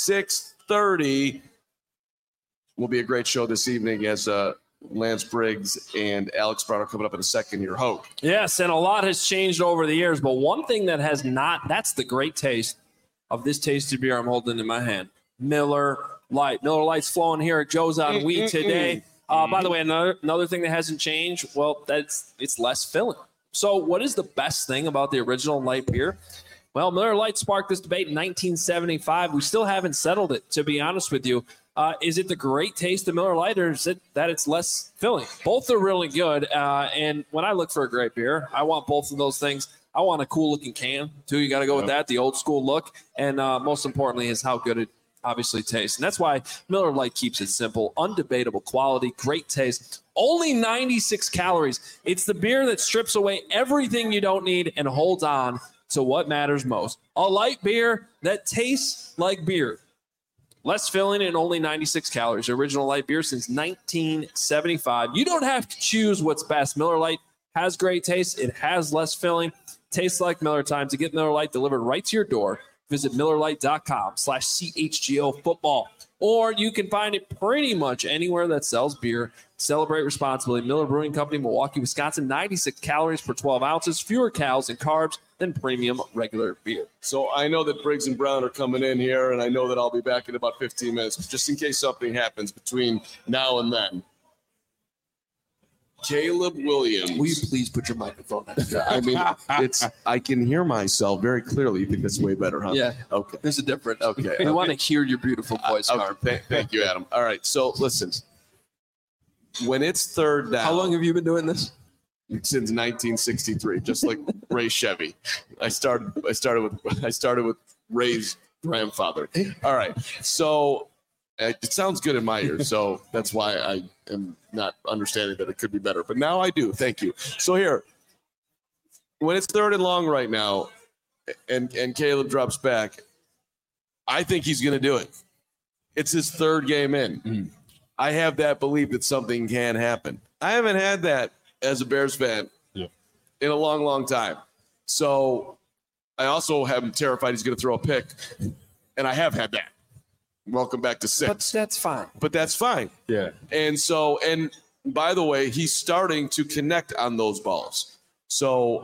6:30. Will be a great show this evening as Lance Briggs and Alex Brown are coming up in a second here. Hope. Yes, and a lot has changed over the years, but one thing that has not, that's the great taste of this tasty beer I'm holding in my hand. Miller Lite. Miller Lite's flowing here at Joe's on Wheat today. By the way, another thing that hasn't changed, well, it's less filling. So what is the best thing about the original light beer? Well, Miller Lite sparked this debate in 1975. We still haven't settled it, to be honest with you. Is it the great taste of Miller Lite, or is it that it's less filling? Both are really good. And when I look for a great beer, I want both of those things. I want a cool-looking can, too. You got to go with that, the old-school look. And most importantly is how good it obviously tastes. And that's why Miller Lite keeps it simple, undebatable quality, great taste, only 96 calories. It's the beer that strips away everything you don't need and holds on to what matters most. A light beer that tastes like beer. Less filling and only 96 calories. Original light beer since 1975. You don't have to choose what's best. Miller Lite has great taste. It has less filling. Tastes like Miller time. To get Miller Lite delivered right to your door, visit MillerLite.com/CHGO football. Or you can find it pretty much anywhere that sells beer. Celebrate responsibly. Miller Brewing Company, Milwaukee, Wisconsin. 96 calories per 12 ounces. Fewer calories and carbs than premium regular beer. So I know that Briggs and Brown are coming in here, and I know that I'll be back in about 15 minutes, just in case something happens between now and then. Caleb Williams. Will you please put your microphone on? I mean, I can hear myself very clearly. You think that's way better, huh? Yeah. Okay. There's a difference. Okay. We want to hear your beautiful voice, Carm. Thank you, Adam. All right. So listen, when it's third down. How long have you been doing this? Since 1963, just like Ray Chevy. I started with Ray's grandfather. All right. So it sounds good in my ears, so that's why I am not understanding that it could be better. But now I do. Thank you. So here, when it's third and long right now, and Caleb drops back, I think he's going to do it. It's his third game in. Mm-hmm. I have that belief that something can happen. I haven't had that as a Bears fan in a long, long time. So I also am terrified he's going to throw a pick, and I have had that. Welcome back to 6. But that's fine. Yeah. And by the way, he's starting to connect on those balls. So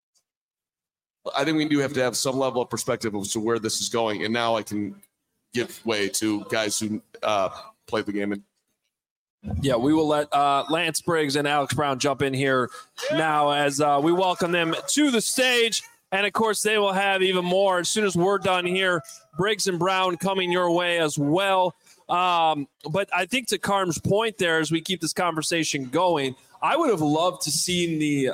I think we do have to have some level of perspective as to where this is going. And now I can give way to guys who played the game. Yeah, we will let Lance Briggs and Alex Brown jump in here now as we welcome them to the stage. And, of course, they will have even more as soon as we're done here. Briggs and Brown coming your way as well. But I think to Carm's point there, as we keep this conversation going, I would have loved to see the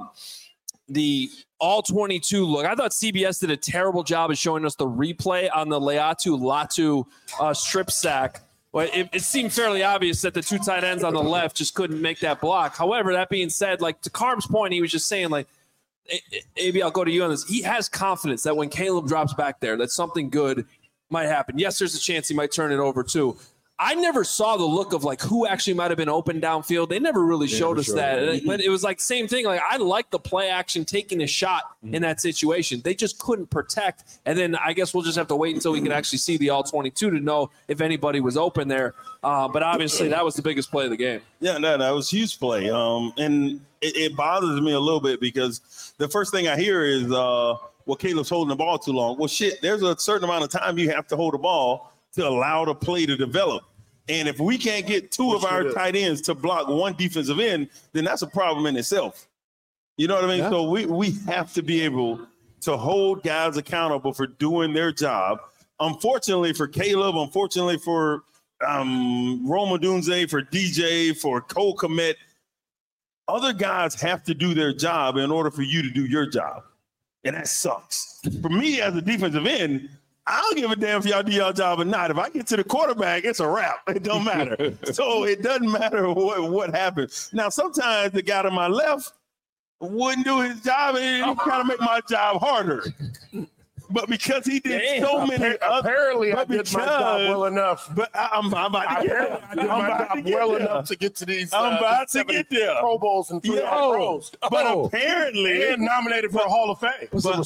all-22 look. I thought CBS did a terrible job of showing us the replay on the Latu strip sack. Well, it seemed fairly obvious that the two tight ends on the left just couldn't make that block. However, that being said, like to Carm's point, he was just saying, like, maybe I'll go to you on this. He has confidence that when Caleb drops back there, that something good might happen. Yes, there's a chance he might turn it over too. I never saw the look of like who actually might have been open downfield. They never really showed us that. But it was like same thing. Like I like the play action taking a shot in that situation. They just couldn't protect. And then I guess we'll just have to wait until we can actually see the all 22 to know if anybody was open there. But obviously that was the biggest play of the game. Yeah, no, that was a huge play. And it bothers me a little bit because the first thing I hear is, well, Caleb's holding the ball too long. Well, shit, there's a certain amount of time you have to hold the ball to allow the play to develop. And if we can't get two of our tight ends to block one defensive end, then that's a problem in itself. You know what I mean? Yeah. So we have to be able to hold guys accountable for doing their job. Unfortunately for Caleb, unfortunately for Rome Odunze, for DJ, for Cole Kmet, other guys have to do their job in order for you to do your job. And that sucks. For me as a defensive end, I don't give a damn if y'all do y'all job or not. If I get to the quarterback, it's a wrap. It don't matter. So it doesn't matter what happens. Now, sometimes the guy to my left wouldn't do his job, and it kind of make my job harder. But because he did so many apparently I did my job well enough. But I'm about to get I did my job well enough to get to these I'm about to get there. Pro Bowls and 3 Pros. But apparently and nominated for a Hall of Fame. But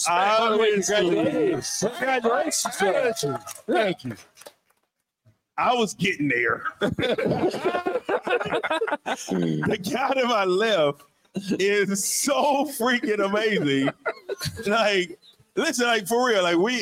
congratulations. Thank you. I was getting there. The guy to my left is so freaking amazing. Like, listen, like for real, like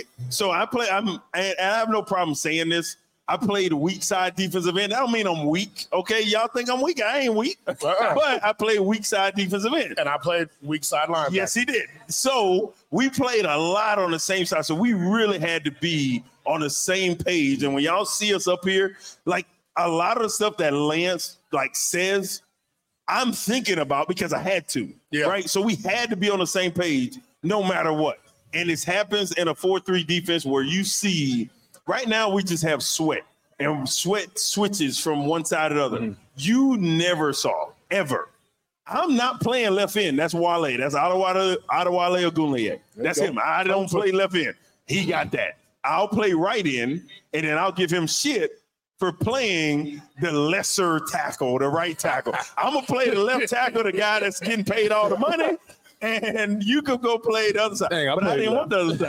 I have no problem saying this. I played weak side defensive end. I don't mean I'm weak. Okay, y'all think I'm weak? I ain't weak. But I played weak side defensive end. And I played weak side linebacker. Yes, he did. So we played a lot on the same side. So we really had to be on the same page. And when y'all see us up here, like a lot of the stuff that Lance like says, I'm thinking about because I had to. Yeah. Right. So we had to be on the same page no matter what. And this happens in a 4-3 defense where you see right now we just have Sweat, and Sweat switches from one side to the other. Mm-hmm. You never saw, ever. I'm not playing left end. That's Wale. That's Adewale Ogunleye. That's him. I don't play left end. He got that. I'll play right end, and then I'll give him shit for playing the lesser tackle, the right tackle. I'm going to play the left tackle, the guy that's getting paid all the money. And you could go play the other side. Dang, but I didn't want the other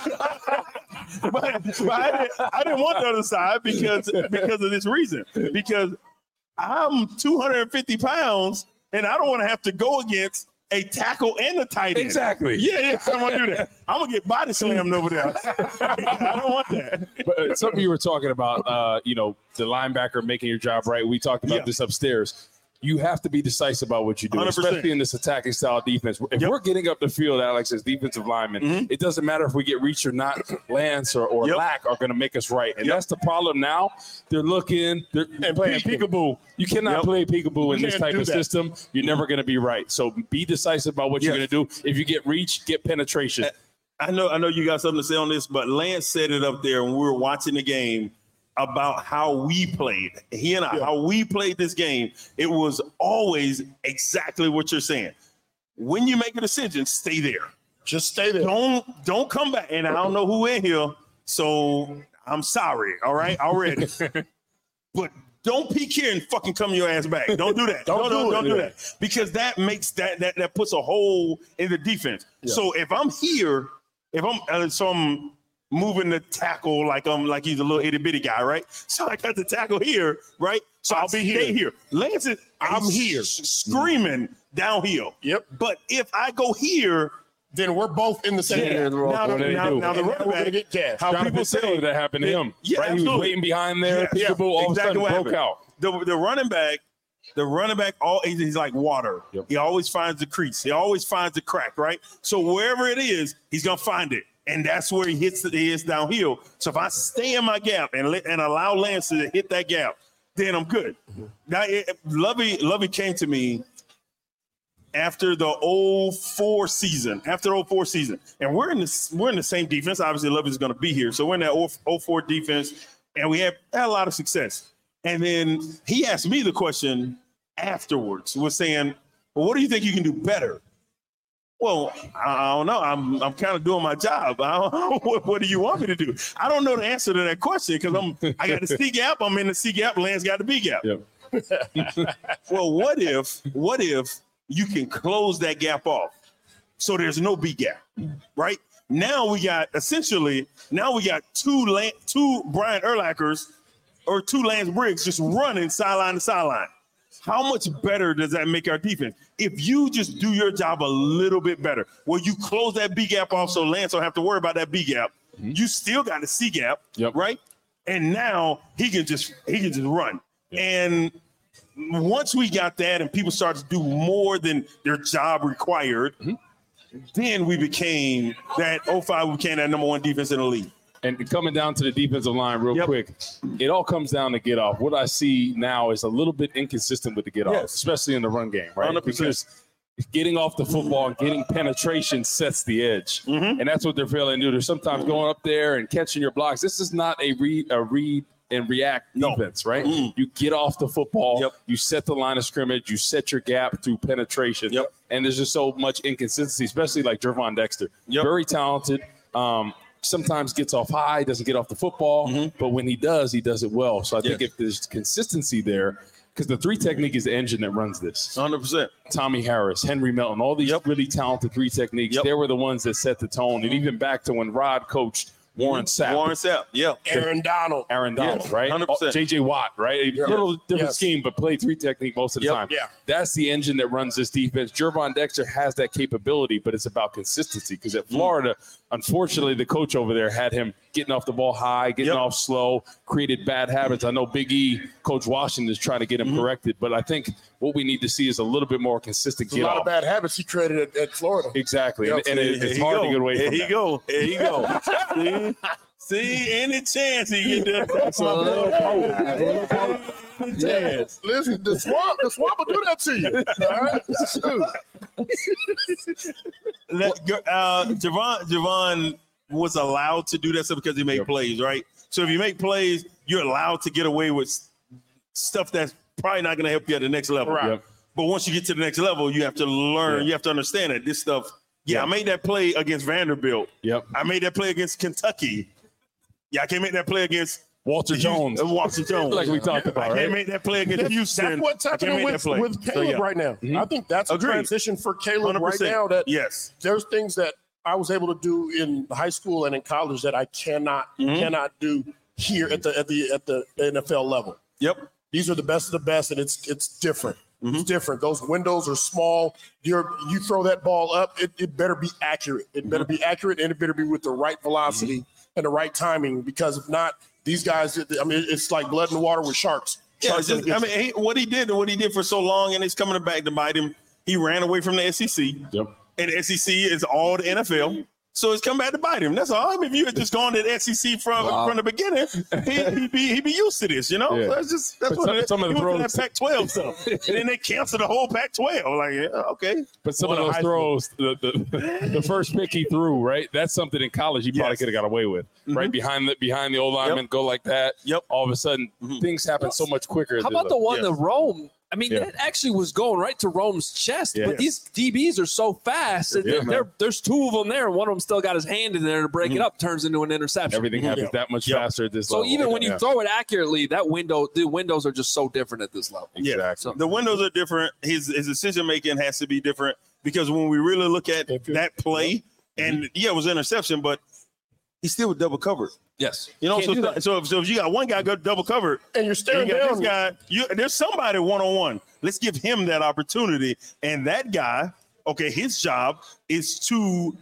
side. but I didn't want the other side because of this reason. Because I'm 250 pounds, and I don't want to have to go against a tackle and a tight end. Exactly. Yeah, I don't want to do that. I'm going to get body slammed over there. I don't want that. But something you were talking about, the linebacker making your job right. We talked about this upstairs. You have to be decisive about what you do, 100%. Especially in this attacking style defense. If we're getting up the field, Alex, as defensive linemen, it doesn't matter if we get reached or not. Lance or Lack are going to make us right. And that's the problem now. They're looking and playing peekaboo. You cannot play peekaboo in this type of system. You're never going to be right. So be decisive about what you're going to do. If you get reached, get penetration. I know you got something to say on this, but Lance said it up there when we were watching the game about how we played. He and I, how we played this game, it was always exactly what you're saying. When you make a decision, stay there. Just stay there. Don't come back. And I don't know who in here, so I'm sorry, all right, already. But don't peek here and fucking come your ass back. Don't do that. don't do that. Because that makes that puts a hole in the defense. Yeah. So if I'm here, I'm moving the tackle like he's a little itty bitty guy, right? So I got the tackle here, right? So I'll be here. Lance is I'm here screaming downhill. Yep. But if I go here, then we're both in the same. Now the running back get cash. How people say that happened to him. Yeah, right? He was waiting behind there. Peekaboo all of a sudden broke out. The running back, he's like water. Yep. He always finds the crease. He always finds the crack, right? So wherever it is, he's gonna find it. And that's where he hits downhill. So if I stay in my gap and allow Lance to hit that gap, then I'm good. Now, Lovey came to me after the 04 season. And we're in the same defense. Obviously, Lovey's going to be here. So we're in that 04 defense, and we had a lot of success. And then he asked me the question afterwards, was saying, well, what do you think you can do better? Well, I don't know. I'm kind of doing my job. What do you want me to do? I don't know the answer to that question because I got the C gap. I'm in the C gap. Lance got the B gap. Yep. Well, what if you can close that gap off so there's no B gap, right? Now we got two Brian Urlachers or two Lance Briggs just running sideline to sideline. How much better does that make our defense? If you just do your job a little bit better, where you close that B gap off so Lance don't have to worry about that B gap, you still got the C gap, right? And now he can just run. And once we got that and people started to do more than their job required, then we became that 05, we became that number one defense in the league. And coming down to the defensive line real quick, it all comes down to get off. What I see now is a little bit inconsistent with the get off, especially in the run game, right? 100%. Because getting off the football and getting penetration sets the edge. And that's what they're failing to do. They're sometimes going up there and catching your blocks. This is not a read and react defense, right? You get off the football, you set the line of scrimmage, you set your gap through penetration. And there's just so much inconsistency, especially like Gervon Dexter. Very talented. Sometimes gets off high, doesn't get off the football, but when he does it well. So I think if there's consistency there, because the three technique is the engine that runs this. 100%. Tommy Harris, Henry Melton, all these really talented three techniques, they were the ones that set the tone. And even back to when Rod coached Warren Sapp. Aaron Donald, right? 100%. J.J. Watt, right? A little different scheme, but play three technique most of the time. That's the engine that runs this defense. Gervon Dexter has that capability, but it's about consistency. Because at Florida, unfortunately, the coach over there had him getting off the ball high, getting off slow, created bad habits. I know Big E, Coach Washington, is trying to get him corrected, but I think what we need to see is a little bit more consistent get off. A lot of bad habits he created at Florida. Exactly. And it's hard to get away from that. There you go. See, any chance he get that? Listen, the swamp will do that to you. All right? Javon was allowed to do that stuff because he made plays, right? So if you make plays, you're allowed to get away with stuff that's probably not going to help you at the next level. Right. But once you get to the next level, you have to learn, you have to understand that this stuff. I made that play against Vanderbilt. I made that play against Kentucky. I can't make that play against Walter Jones. Like we talked about. I can't make that play against Houston. That's what's happening with Caleb right now. I think that's a transition for Caleb 100%. Right now. That there's things that I was able to do in high school and in college that I cannot do here at the NFL level. These are the best of the best, and it's different. It's different. Those windows are small. You throw that ball up, it better be accurate. It better be accurate, and it better be with the right velocity and the right timing, because if not, these guys, it's like blood in the water with sharks. What he did for so long, and it's coming back to bite him. He ran away from the SEC. And the SEC is all the NFL. So it's come back to bite him. That's all. I mean, if you had just gone to the SEC from the beginning, he'd be used to this, you know? That's what it is. Some of the throws, that Pac-12 stuff. And then they canceled the whole Pac-12. Like, okay. But some of those throws, the first pick he threw, right? That's something in college he probably could have got away with. Right? Behind the old lineman, go like that. All of a sudden, things happen so much quicker. How about the one to Rome? I mean, that actually was going right to Rome's chest, but these DBs are so fast. There's two of them there, and one of them still got his hand in there to break it up, turns into an interception. Everything happens that much faster at this level. So even when you throw it accurately, the windows are just so different at this level. So the windows are different. His decision making has to be different, because when we really look at that play, and it was an interception, but he still was double covered. Yes. You know, so if you got one guy go double covered and you're staring down this guy, there's somebody one-on-one. Let's give him that opportunity. And that guy, his job is to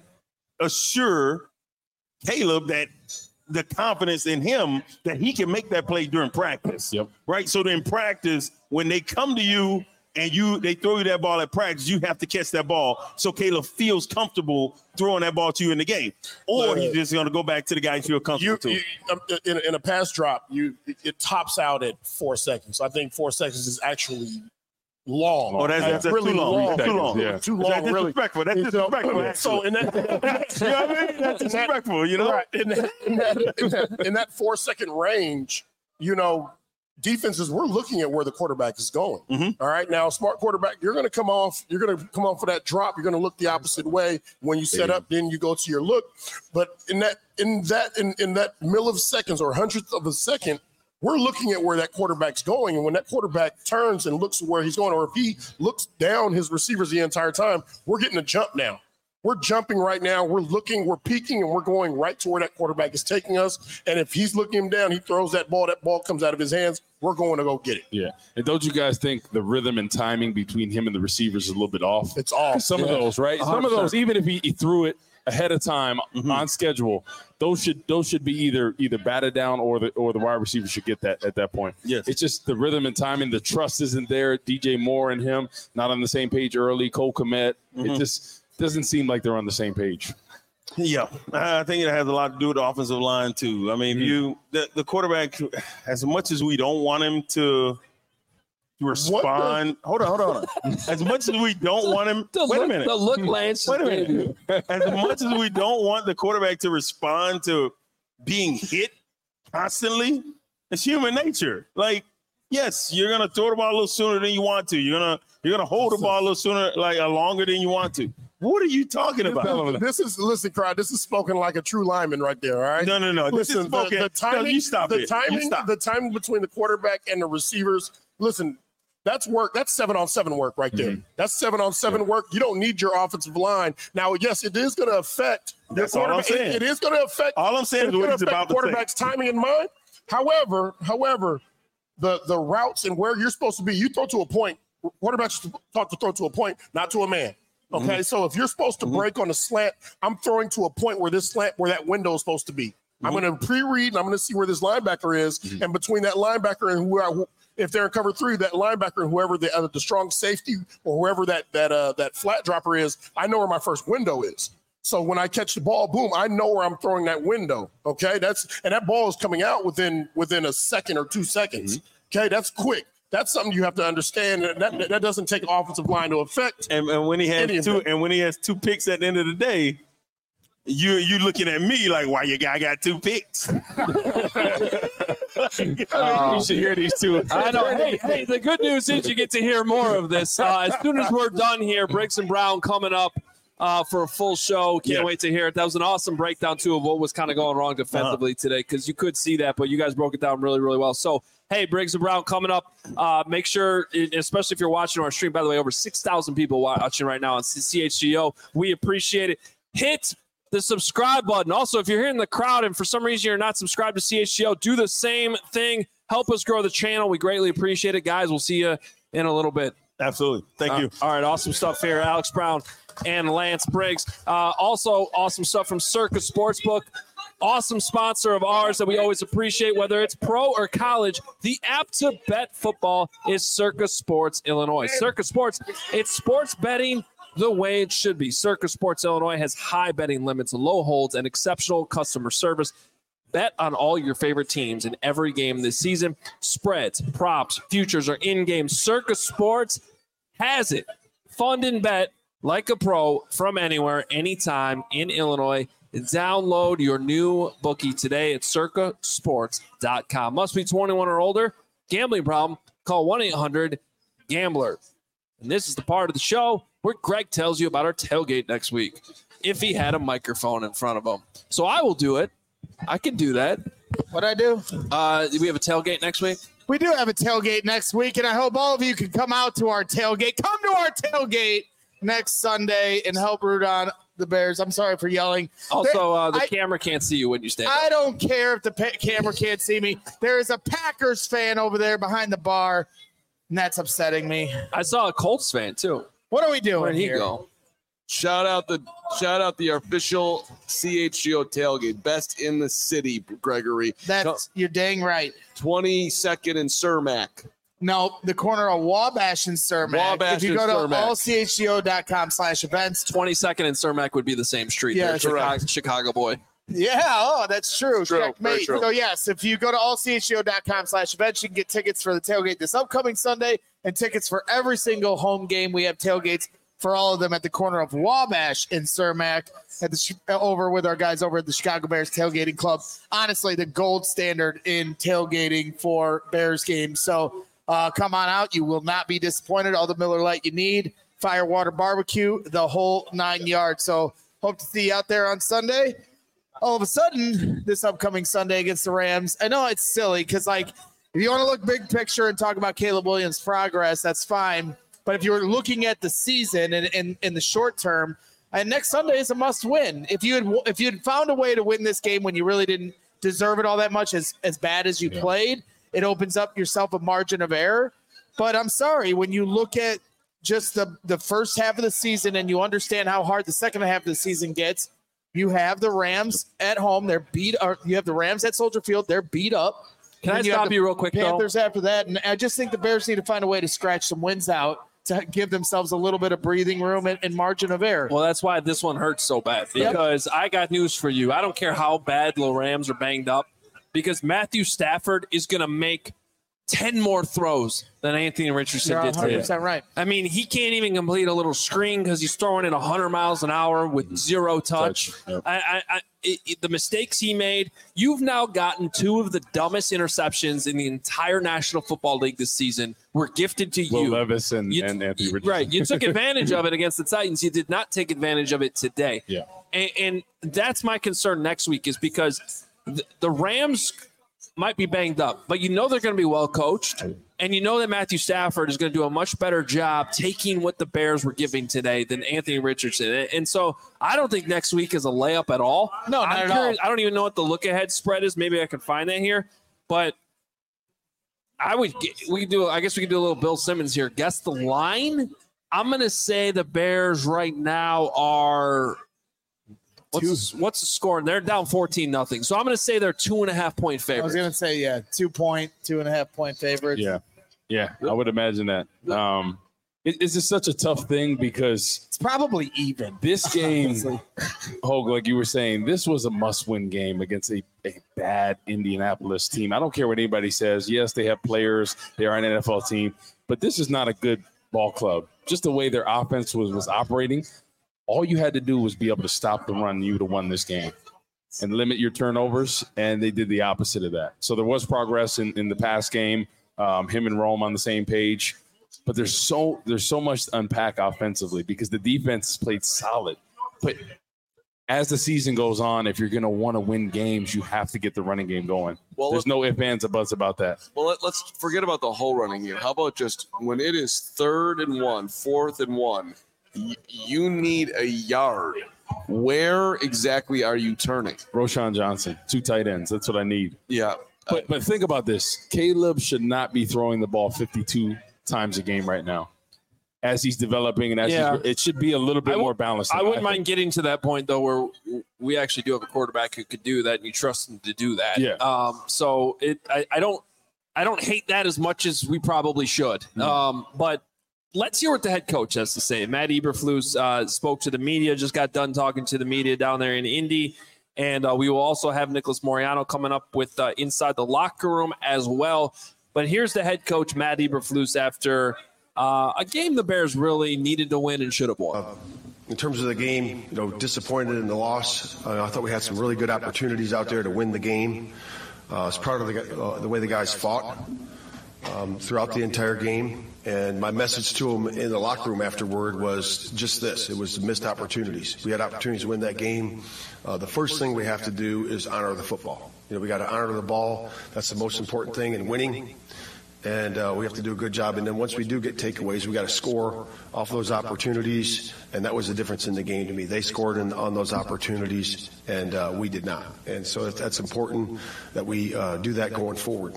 assure Caleb that the confidence in him that he can make that play during practice. Right. So in practice, when they come to you and they throw you that ball at practice, you have to catch that ball so Caleb feels comfortable throwing that ball to you in the game. Or he's just going to go back to the guy you feel comfortable to. In a pass drop, it tops out at 4 seconds. I think 4 seconds is actually long. Oh, that's really long. Too long. Too long. That's disrespectful. That's disrespectful. So in that, you know what I mean? That's disrespectful. You know, right? In that 4 second range, defenses, we're looking at where the quarterback is going. All right. Now, smart quarterback, you're going to come off for that drop. You're going to look the opposite way. When you set up, then you go to your look. But in that milliseconds or hundredth of a second, we're looking at where that quarterback's going. And when that quarterback turns and looks where he's going, or if he looks down his receivers the entire time, we're getting a jump now. We're jumping right now. We're looking, we're peeking, and we're going right to where that quarterback is taking us. And if he's looking him down, he throws that ball comes out of his hands. We're going to go get it. Yeah. And don't you guys think the rhythm and timing between him and the receivers is a little bit off? It's off. Some of those, right? 100%. Some of those, even if he threw it ahead of time on schedule, those should be either batted down or the wide receiver should get that at that point. Yes. It's just the rhythm and timing. The trust isn't there. DJ Moore and him not on the same page early. Cole Kmet. It just doesn't seem like they're on the same page. Yeah, I think it has a lot to do with the offensive line too. I mean, the quarterback, as much as we don't want him to respond. Hold on. As much as we don't want him, wait a minute. The look, Lance. Wait a minute. As much as we don't want the quarterback to respond to being hit constantly, it's human nature. Like, yes, you're gonna throw the ball a little sooner than you want to. You're gonna hold the ball a little sooner, longer than you want to. What are you talking about? Listen, Crowd. This is spoken like a true lineman right there. All right. No. Listen, the timing. You stop the it. timing. The timing between the quarterback and the receivers. Listen, that's work. That's 7-on-7 work right there. That's 7-on-7 work. You don't need your offensive line. Now, yes, it is going to affect. That's all I'm saying. It is going to affect. All I'm saying is what he's about to say. Quarterback's timing in mind. However, the routes and where you're supposed to be, you throw to a point. Quarterbacks taught to throw to a point, not to a man. Okay, so if you're supposed to break on a slant, I'm throwing to a point where that window is supposed to be. I'm going to pre-read and I'm going to see where this linebacker is, and between that linebacker and if they're in cover 3, that linebacker and whoever the strong safety or whoever that flat dropper is, I know where my first window is. So when I catch the ball, boom, I know where I'm throwing that window. Okay, that ball is coming out within a second or 2 seconds. Okay, that's quick. That's something you have to understand. That doesn't take an offensive line to affect. And when he has 2 picks at the end of the day, you looking at me like, why your guy got 2 picks? You should hear these two. I know. Hey, the good news is you get to hear more of this. As soon as we're done here, Briggs and Brown coming up for a full show. Can't wait to hear it. That was an awesome breakdown, too, of what was kind of going wrong defensively today, because you could see that, but you guys broke it down really, really well. So, hey, Briggs and Brown coming up. Make sure, especially if you're watching our stream, by the way, over 6,000 people watching right now on CHGO. We appreciate it. Hit the subscribe button. Also, if you're here in the crowd and for some reason you're not subscribed to CHGO, do the same thing. Help us grow the channel. We greatly appreciate it, guys. We'll see you in a little bit. Absolutely. Thank you. All right, awesome stuff here. Alex Brown and Lance Briggs. Also, awesome stuff from Circa Sportsbook. Awesome sponsor of ours that we always appreciate, whether it's pro or college. The app to bet football is Circa Sports Illinois. Circa Sports, it's sports betting the way it should be. Circa Sports Illinois has high betting limits, low holds, and exceptional customer service. Bet on all your favorite teams in every game this season. Spreads, props, futures are in-game. Circa Sports has it. Fund and bet like a pro from anywhere, anytime in Illinois. Download your new bookie today at circasports.com. Must be 21 or older. Gambling problem? Call 1-800-GAMBLER. And this is the part of the show where Greg tells you about our tailgate next week, if he had a microphone in front of him. So I will do it. I can do that. What'd I do? Do we have a tailgate next week? We do have a tailgate next week, and I hope all of you can come out to our tailgate. Come to our tailgate next Sunday and help root on the Bears. I'm sorry for yelling. Also, the camera can't see you when you stand up. I don't care if the camera can't see me. There is a Packers fan over there behind the bar, and that's upsetting me. I saw a Colts fan, too. What are we doing Where'd he here? go? Shout out the official CHGO tailgate, best in the city, Gregory. You're dang right. 22nd and Cermak. No, the corner of Wabash and Cermak. Wabash if you go to Cermak. allchgo.com/events. 22nd and Cermak would be the same street. Yeah, there. Chicago boy. Yeah, that's true. Checkmate. So, yes, if you go to allchgo.com/events, you can get tickets for the tailgate this upcoming Sunday and tickets for every single home game. We have tailgates for all of them at the corner of Wabash and Cermak over with our guys over at the Chicago Bears Tailgating Club. Honestly, the gold standard in tailgating for Bears games. So come on out. You will not be disappointed. All the Miller Lite you need, Firewater Barbecue, the whole 9 yards. So hope to see you out there on Sunday. All of a sudden, this upcoming Sunday against the Rams, I know it's silly because, like, if you want to look big picture and talk about Caleb Williams' progress, that's fine. But if you're looking at the season and in the short term, and next Sunday is a must win. If you had found a way to win this game when you really didn't deserve it all that much, as bad as you played, it opens up yourself a margin of error. But I'm sorry, when you look at just the first half of the season and you understand how hard the second half of the season gets, you have the Rams at home. They're beat. Or you have the Rams at Soldier Field. They're beat up. Can I stop you real quick, Panthers though? After that, and I just think the Bears need to find a way to scratch some wins out to give themselves a little bit of breathing room and margin of error. Well, that's why this one hurts so bad. Because I got news for you. I don't care how bad the Rams are banged up, because Matthew Stafford is going to make 10 more throws than Anthony Richardson did today. 100% right. I mean, he can't even complete a little screen because he's throwing it 100 miles an hour with zero touch. Yep. The mistakes he made, you've now gotten two of the dumbest interceptions in the entire National Football League this season were gifted to Will you. Levis and Anthony Richardson. Right. You took advantage of it against the Titans. You did not take advantage of it today. Yeah. And that's my concern next week, is because the Rams might be banged up, but you know they're going to be well coached, and you know that Matthew Stafford is going to do a much better job taking what the Bears were giving today than Anthony Richardson. And so I don't think next week is a layup at all. No, not at all. I don't even know what the look-ahead spread is. Maybe I can find that here, but I guess we could do a little Bill Simmons here. Guess the line. I'm going to say the Bears right now are. What's the score? They're down 14-0. So I'm going to say they're 2.5-point favorites. I was going to say, 2.5-point favorites. Yeah, I would imagine that. It's just such a tough thing because it's probably even. This game, Hogue, like you were saying, this was a must-win game against a bad Indianapolis team. I don't care what anybody says. Yes, they have players. They are an NFL team. But this is not a good ball club. Just the way their offense was operating, all you had to do was be able to stop the run. You would have won this game and limit your turnovers, and they did the opposite of that. So there was progress in the past game, him and Rome on the same page. But there's so much to unpack offensively because the defense played solid. But as the season goes on, if you're going to want to win games, you have to get the running game going. Well, there's no ifs, ands, or buts about that. Well, let's forget about the whole running game. How about just when it is 3rd and 1, 4th and 1, you need a yard. Where exactly are you turning? Roschon Johnson, 2 tight ends. That's what I need. Yeah. But think about this. Caleb should not be throwing the ball 52 times a game right now. As he's developing and it should be a little bit more balanced. I wouldn't mind getting to that point, though, where we actually do have a quarterback who could do that, and you trust him to do that. Yeah. So I don't hate that as much as we probably should. But let's hear what the head coach has to say. Matt Eberflus spoke to the media, just got done talking to the media down there in Indy. And we will also have Nicholas Moreano coming up with Inside the Locker Room as well. But here's the head coach, Matt Eberflus, after a game the Bears really needed to win and should have won. In terms of the game, disappointed in the loss. I thought we had some really good opportunities out there to win the game. I was proud of the way the guys fought throughout the entire game. And my message to them in the locker room afterward was just this. It was missed opportunities. We had opportunities to win that game. The first thing we have to do is honor the football. We got to honor the ball. That's the most important thing in winning. And we have to do a good job. And then once we do get takeaways, we got to score off those opportunities. And that was the difference in the game to me. They scored on those opportunities, and we did not. And so that's important that we do that going forward.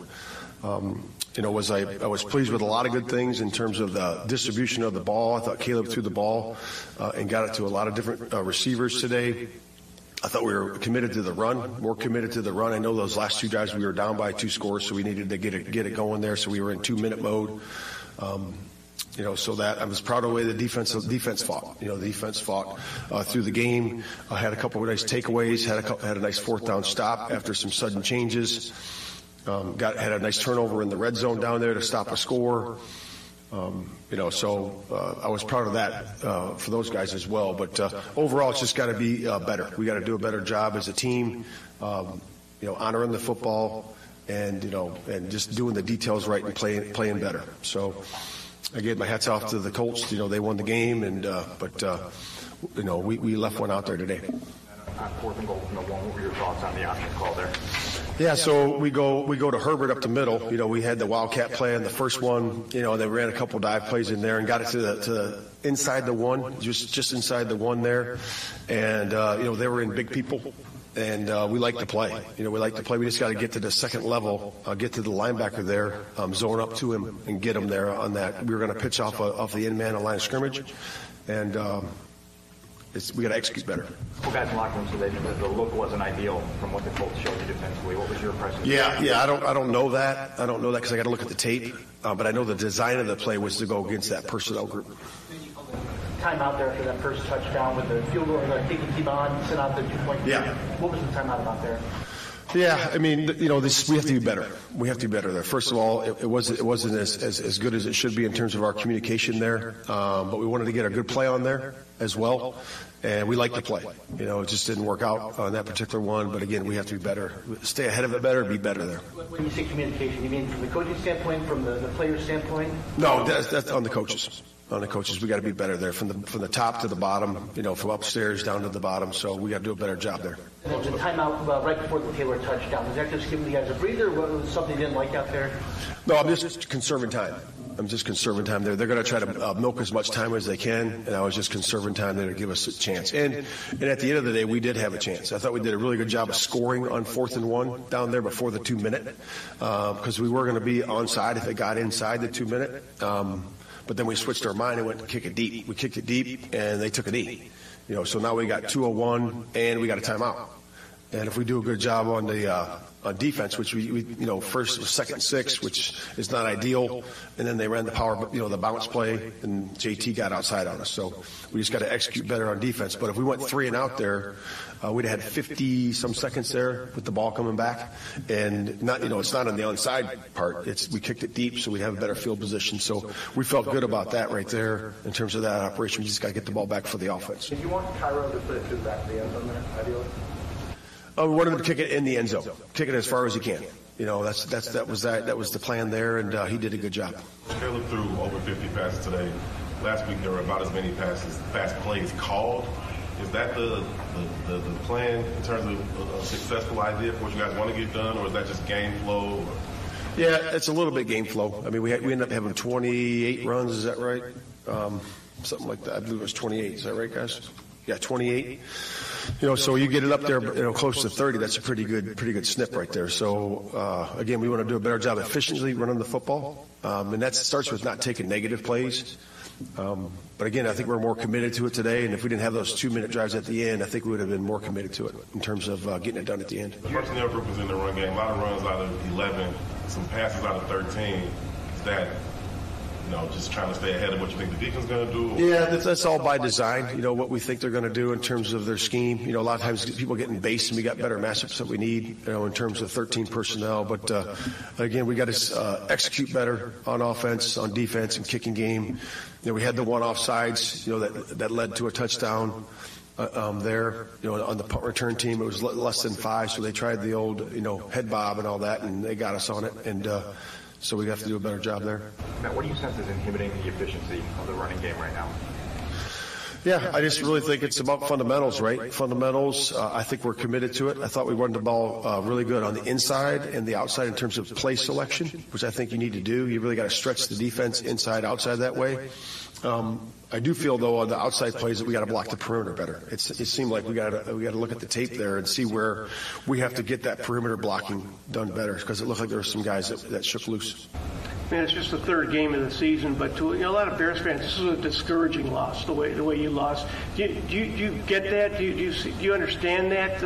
I was pleased with a lot of good things in terms of the distribution of the ball. I thought Caleb threw the ball and got it to a lot of different receivers today. I thought we were committed to the run, more committed to the run. I know those last 2 drives we were down by 2 scores, so we needed to get it going there. So we were in 2-minute mode. So that I was proud of the way the defense fought. The defense fought through the game. Had a couple of nice takeaways. Had a nice 4th down stop after some sudden changes. Had a nice turnover in the red zone down there to stop a score. So I was proud of that for those guys as well. But overall, it's just got to be better. We got to do a better job as a team, honoring the football and just doing the details right and playing better. So again, my hat's off to the Colts. They won the game, but we left one out there today. On 4th and goal from the 1, what were your thoughts on the offense call there? Yeah, so we go to Herbert up the middle. We had the Wildcat play in the first one. They ran a couple dive plays in there and got it to the inside the 1, just inside the 1 there. And they were in big people. And we like to play. We like to play. We just got to get to the second level, get to the linebacker there, zone up to him, and get him there on that. We were going to pitch off the end man of line of scrimmage, and we got to execute better. Well, guys in the locker room said that the look wasn't ideal from what the Colts showed you defensively. What was your impression? Yeah. I don't know that. I don't know that because I got to look at the tape. But I know the design of the play was to go against that personnel group. Timeout there after that first touchdown with the field goal, taking team on, sent out the 2-point. Yeah. What was the timeout about there? Yeah, I mean, we have to be better. We have to be better there. First of all, it wasn't as good as it should be in terms of our communication there. But we wanted to get a good play on there as well. And we like to play. It just didn't work out on that particular one. But again, we have to be better. Stay ahead of it better, be better there. When you say communication, you mean from the coaching standpoint, from the player standpoint? No, that's on the coaches. On the coaches, we got to be better there, from the top to the bottom, from upstairs down to the bottom. So we got to do a better job there. And then the timeout right before the Taylor touchdown, was that just giving you guys a breather, or was something you didn't like out there? No, I'm just conserving time. There. They're going to try to milk as much time as they can, and I was just conserving time there to give us a chance. And at the end of the day, we did have a chance. I thought we did a really good job of scoring on 4th and 1 down there before the 2-minute, because we were going to be onside if it got inside the 2-minute. But then we switched our mind and went to kick it deep. We kicked it deep, and they took a knee. So now we got 2:01, and we got a timeout. And if we do a good job on the defense, which we first was 2nd and 6, which is not ideal, and then they ran the power, the bounce play, and JT got outside on us. So we just got to execute better on defense. But if we went 3 and out there, we'd have had 50 some seconds there with the ball coming back, and not it's not on the onside part. We kicked it deep, so we have a better field position. So we felt good about that right there in terms of that operation. We just got to get the ball back for the offense. Did you want Cairo to put it through the back of the end zone there, ideally? We wanted him to kick it in the end zone, kick it as far as he can. That was the plan there, and he did a good job. Caleb threw over 50 passes today. Last week there were about as many fast plays called. Is that the plan in terms of a successful idea for what you guys want to get done, or is that just game flow? Yeah, it's a little bit game flow. I mean, we ended up having 28 runs. Is that right? Something like that. I believe it was 28. Is that right, guys? Yeah, 28. So you get it up there, close to 30. That's a pretty good snip right there. So again, we want to do a better job efficiently running the football, and that starts with not taking negative plays. But again, I think we're more committed to it today. And if we didn't have those 2-minute drives at the end, I think we would have been more committed to it in terms of getting it done at the end. The personnel group was in the run game. A lot of runs out of 11, some passes out of 13. Is that just trying to stay ahead of what you think the defense is going to do? Yeah, that's all by design, what we think they're going to do in terms of their scheme. A lot of times people get in base, and we got better matchups that we need, in terms of 13 personnel. But, again, we got to execute better on offense, on defense, and kicking game. We had the one offsides, that led to a touchdown there. On the punt return team, it was less than 5, so they tried the old, head bob and all that, and they got us on it. And so we have to do a better job there. Matt, what do you sense is inhibiting the efficiency of the running game right now? Yeah, I just really think it's about fundamentals, right? Fundamentals, I think we're committed to it. I thought we run the ball really good on the inside and the outside in terms of play selection, which I think you need to do. You really got to stretch the defense inside, outside that way. I do feel, though, on the outside plays that we got to block the perimeter better. It seemed like we got to look at the tape there and see where we have to get that perimeter blocking done better, because it looked like there were some guys that shook loose. Man, it's just the 3rd game of the season, but to a lot of Bears fans, this is a discouraging loss. The way you lost. Do you get that? Do you understand that?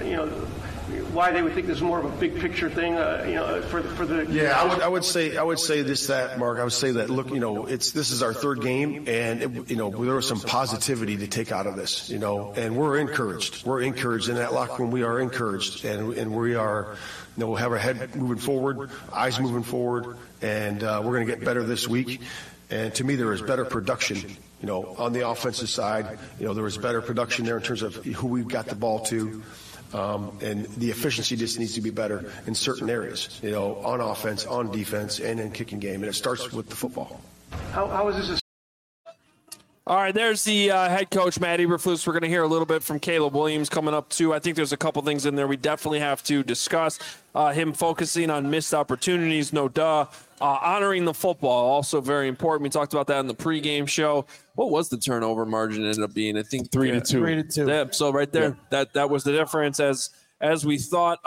Why they would think this is more of a big picture thing, for the. Yeah, I would say that, Mark. I would say that. Look, this is our 3rd game, and there was some positivity to take out of this, and we're encouraged. We're encouraged in that locker room. We are encouraged, and we are. We'll have our head moving forward, eyes moving forward, and we're going to get better this week. And to me, there is better production, on the offensive side. There was better production there in terms of who we got the ball to. And the efficiency just needs to be better in certain areas, on offense, on defense, and in kicking game. And it starts with the football. How is this? All right, there's the head coach, Matt Eberflus. We're going to hear a little bit from Caleb Williams coming up, too. I think there's a couple things in there we definitely have to discuss. Him focusing on missed opportunities, no duh. Honoring the football, also very important. We talked about that in the pregame show. What was the turnover margin ended up being? I think 3-2. 3-2. Yeah, so right there, that was the difference as we thought.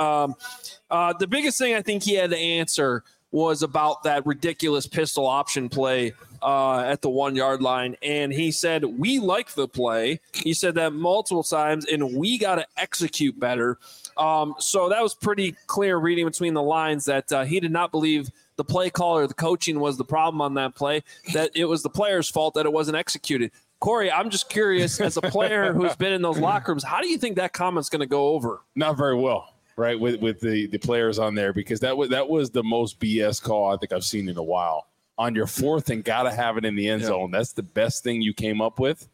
The biggest thing I think he had to answer was about that ridiculous pistol option play at the 1 yard line. And he said, we like the play. He said that multiple times, and we got to execute better. So that was pretty clear reading between the lines that he did not believe the play call or the coaching was the problem on that play, that it was the player's fault that it wasn't executed. Corey, I'm just curious, as a player who's been in those locker rooms, how do you think that comment's going to go over? Not very well. Right, with the players on there, because that was the most BS call I think I've seen in a while. On your 4th and got to have it in the end zone. That's the best thing you came up with.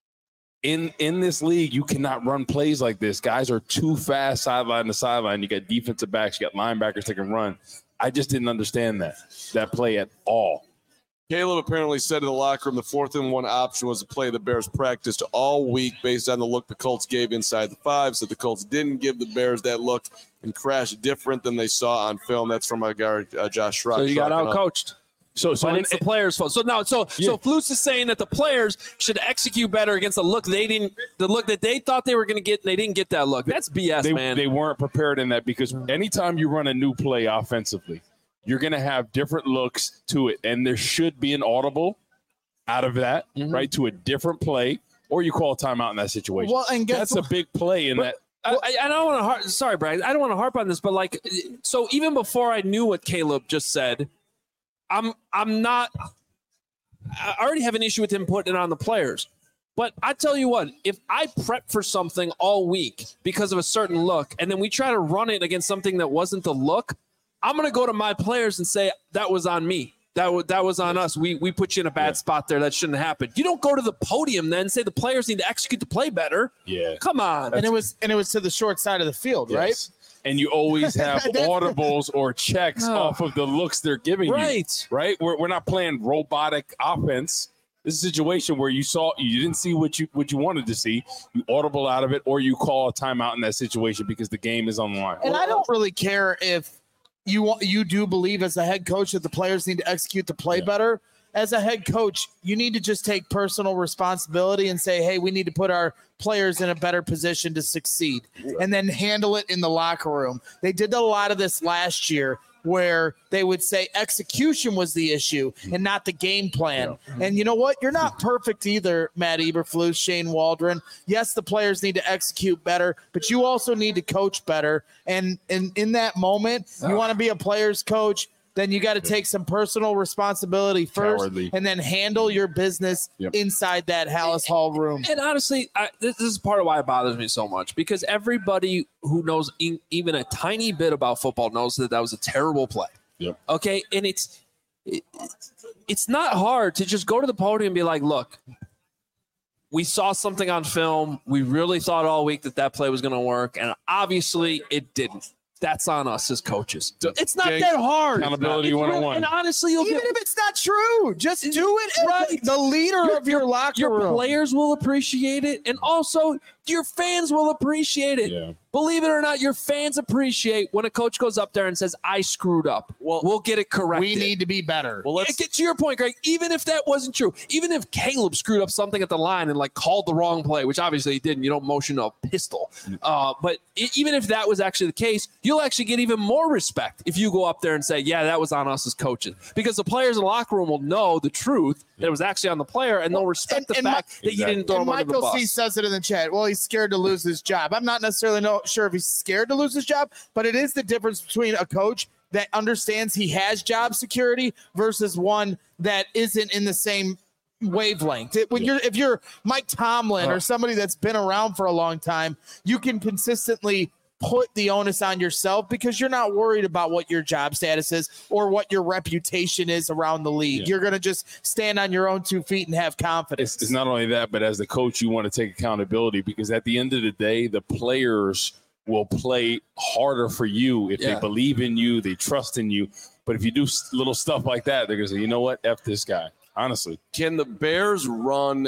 In this league, you cannot run plays like this. Guys are too fast sideline to sideline. You got defensive backs, you got linebackers that can run. I just didn't understand that play at all. Caleb apparently said in the locker room the 4th and 1 option was a play the Bears practiced all week based on the look the Colts gave inside the 5. So the Colts didn't give the Bears that look and crashed different than they saw on film. That's from our guy, Josh Schrock. So you got out-coached. So it's the players' fault. So Flus is saying that the players should execute better against the look that they thought they were going to get, and they didn't get that look. That's BS, man. They weren't prepared in that, because anytime you run a new play offensively, you're going to have different looks to it, and there should be an audible out of that, right, to a different play, or you call a timeout in that situation. Well, and that's a big play in that. I don't want to sorry, Brad. I don't want to harp on this, but so even before I knew what Caleb just said, I already have an issue with him putting it on the players. But I tell you what, if I prep for something all week because of a certain look, and then we try to run it against something that wasn't the look, I'm going to go to my players and say, that was on me. That was on us. We put you in a bad spot there. That shouldn't happen. You don't go to the podium then and say the players need to execute the play better. Yeah. Come on. And it was to the short side of the field, right? And you always have audibles or checks off of the looks they're giving you. Right? We're not playing robotic offense. This is a situation where you didn't see what you wanted to see. You audible out of it, or you call a timeout in that situation because the game is on the line. And I don't really care if you do believe as a head coach that the players need to execute the play better. As a head coach, you need to just take personal responsibility and say, hey, we need to put our players in a better position to succeed, and then handle it in the locker room. They did a lot of this last year where they would say execution was the issue and not the game plan. And you know what? You're not perfect either, Matt Eberflus, Shane Waldron. Yes, the players need to execute better, but you also need to coach better. And in that moment, you want to be a player's coach, then you got to take some personal responsibility first and then handle your business inside that Hallis Hall room. And honestly, this is part of why it bothers me so much, because everybody who knows even a tiny bit about football knows that was a terrible play. Yep. Okay, and it's not hard to just go to the podium and be like, look, we saw something on film. We really thought all week that play was going to work, and obviously it didn't. That's on us as coaches. It's not that hard. Accountability 101. And honestly, even if it's not true, just do it. Right. The leader of your locker room. Your players will appreciate it, and also your fans will appreciate it. Yeah. Believe it or not, your fans appreciate when a coach goes up there and says, I screwed up. Well, we'll get it corrected. We need to be better. Well, let's get to your point, Greg. Even if that wasn't true, even if Caleb screwed up something at the line and called the wrong play, which obviously he didn't, you don't motion a pistol. But even if that was actually the case, you'll actually get even more respect if you go up there and say, yeah, that was on us as coaches. Because the players in the locker room will know the truth that it was actually on the player, and they'll respect the fact that you didn't throw him under the bus. Michael C. says it in the chat. Well, he's scared to lose his job. I'm not necessarily sure if he's scared to lose his job, but it is the difference between a coach that understands he has job security versus one that isn't in the same wavelength. If you're Mike Tomlin or somebody that's been around for a long time, you can consistently put the onus on yourself because you're not worried about what your job status is or what your reputation is around the league. Yeah. You're going to just stand on your own 2 feet and have confidence. It's not only that, but as the coach, you want to take accountability because at the end of the day, the players will play harder for you if they believe in you, they trust in you. But if you do little stuff like that, they're going to say, you know what, F this guy, honestly. Can the Bears run?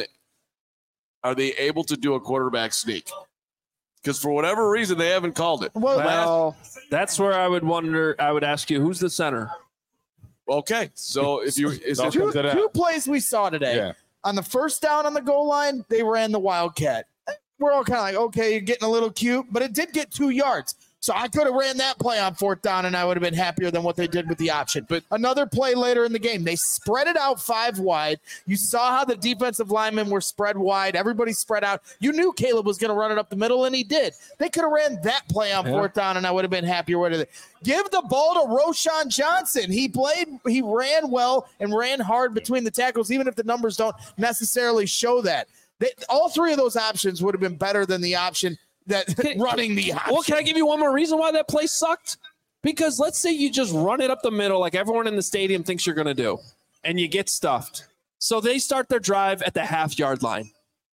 Are they able to do a quarterback sneak? Because for whatever reason, they haven't called it. Well, that's where I would wonder. I would ask you, who's the center? Okay, so if you two plays we saw today. Yeah. On the first down on the goal line, they ran the Wildcat. We're all kind of like, okay, you're getting a little cute, but it did get 2 yards. So I could have ran that play on 4th down, and I would have been happier than what they did with the option. But another play later in the game, they spread it out 5 wide. You saw how the defensive linemen were spread wide. Everybody spread out. You knew Caleb was going to run it up the middle, and he did. They could have ran that play on 4th down, and I would have been happier with it. Give the ball to Roschon Johnson. He ran well and ran hard between the tackles, even if the numbers don't necessarily show that. All 3 of those options would have been better than the option running the option. Well, can I give you one more reason why that play sucked? Because let's say you just run it up the middle like everyone in the stadium thinks you're going to do, and you get stuffed. So they start their drive at the half-yard line.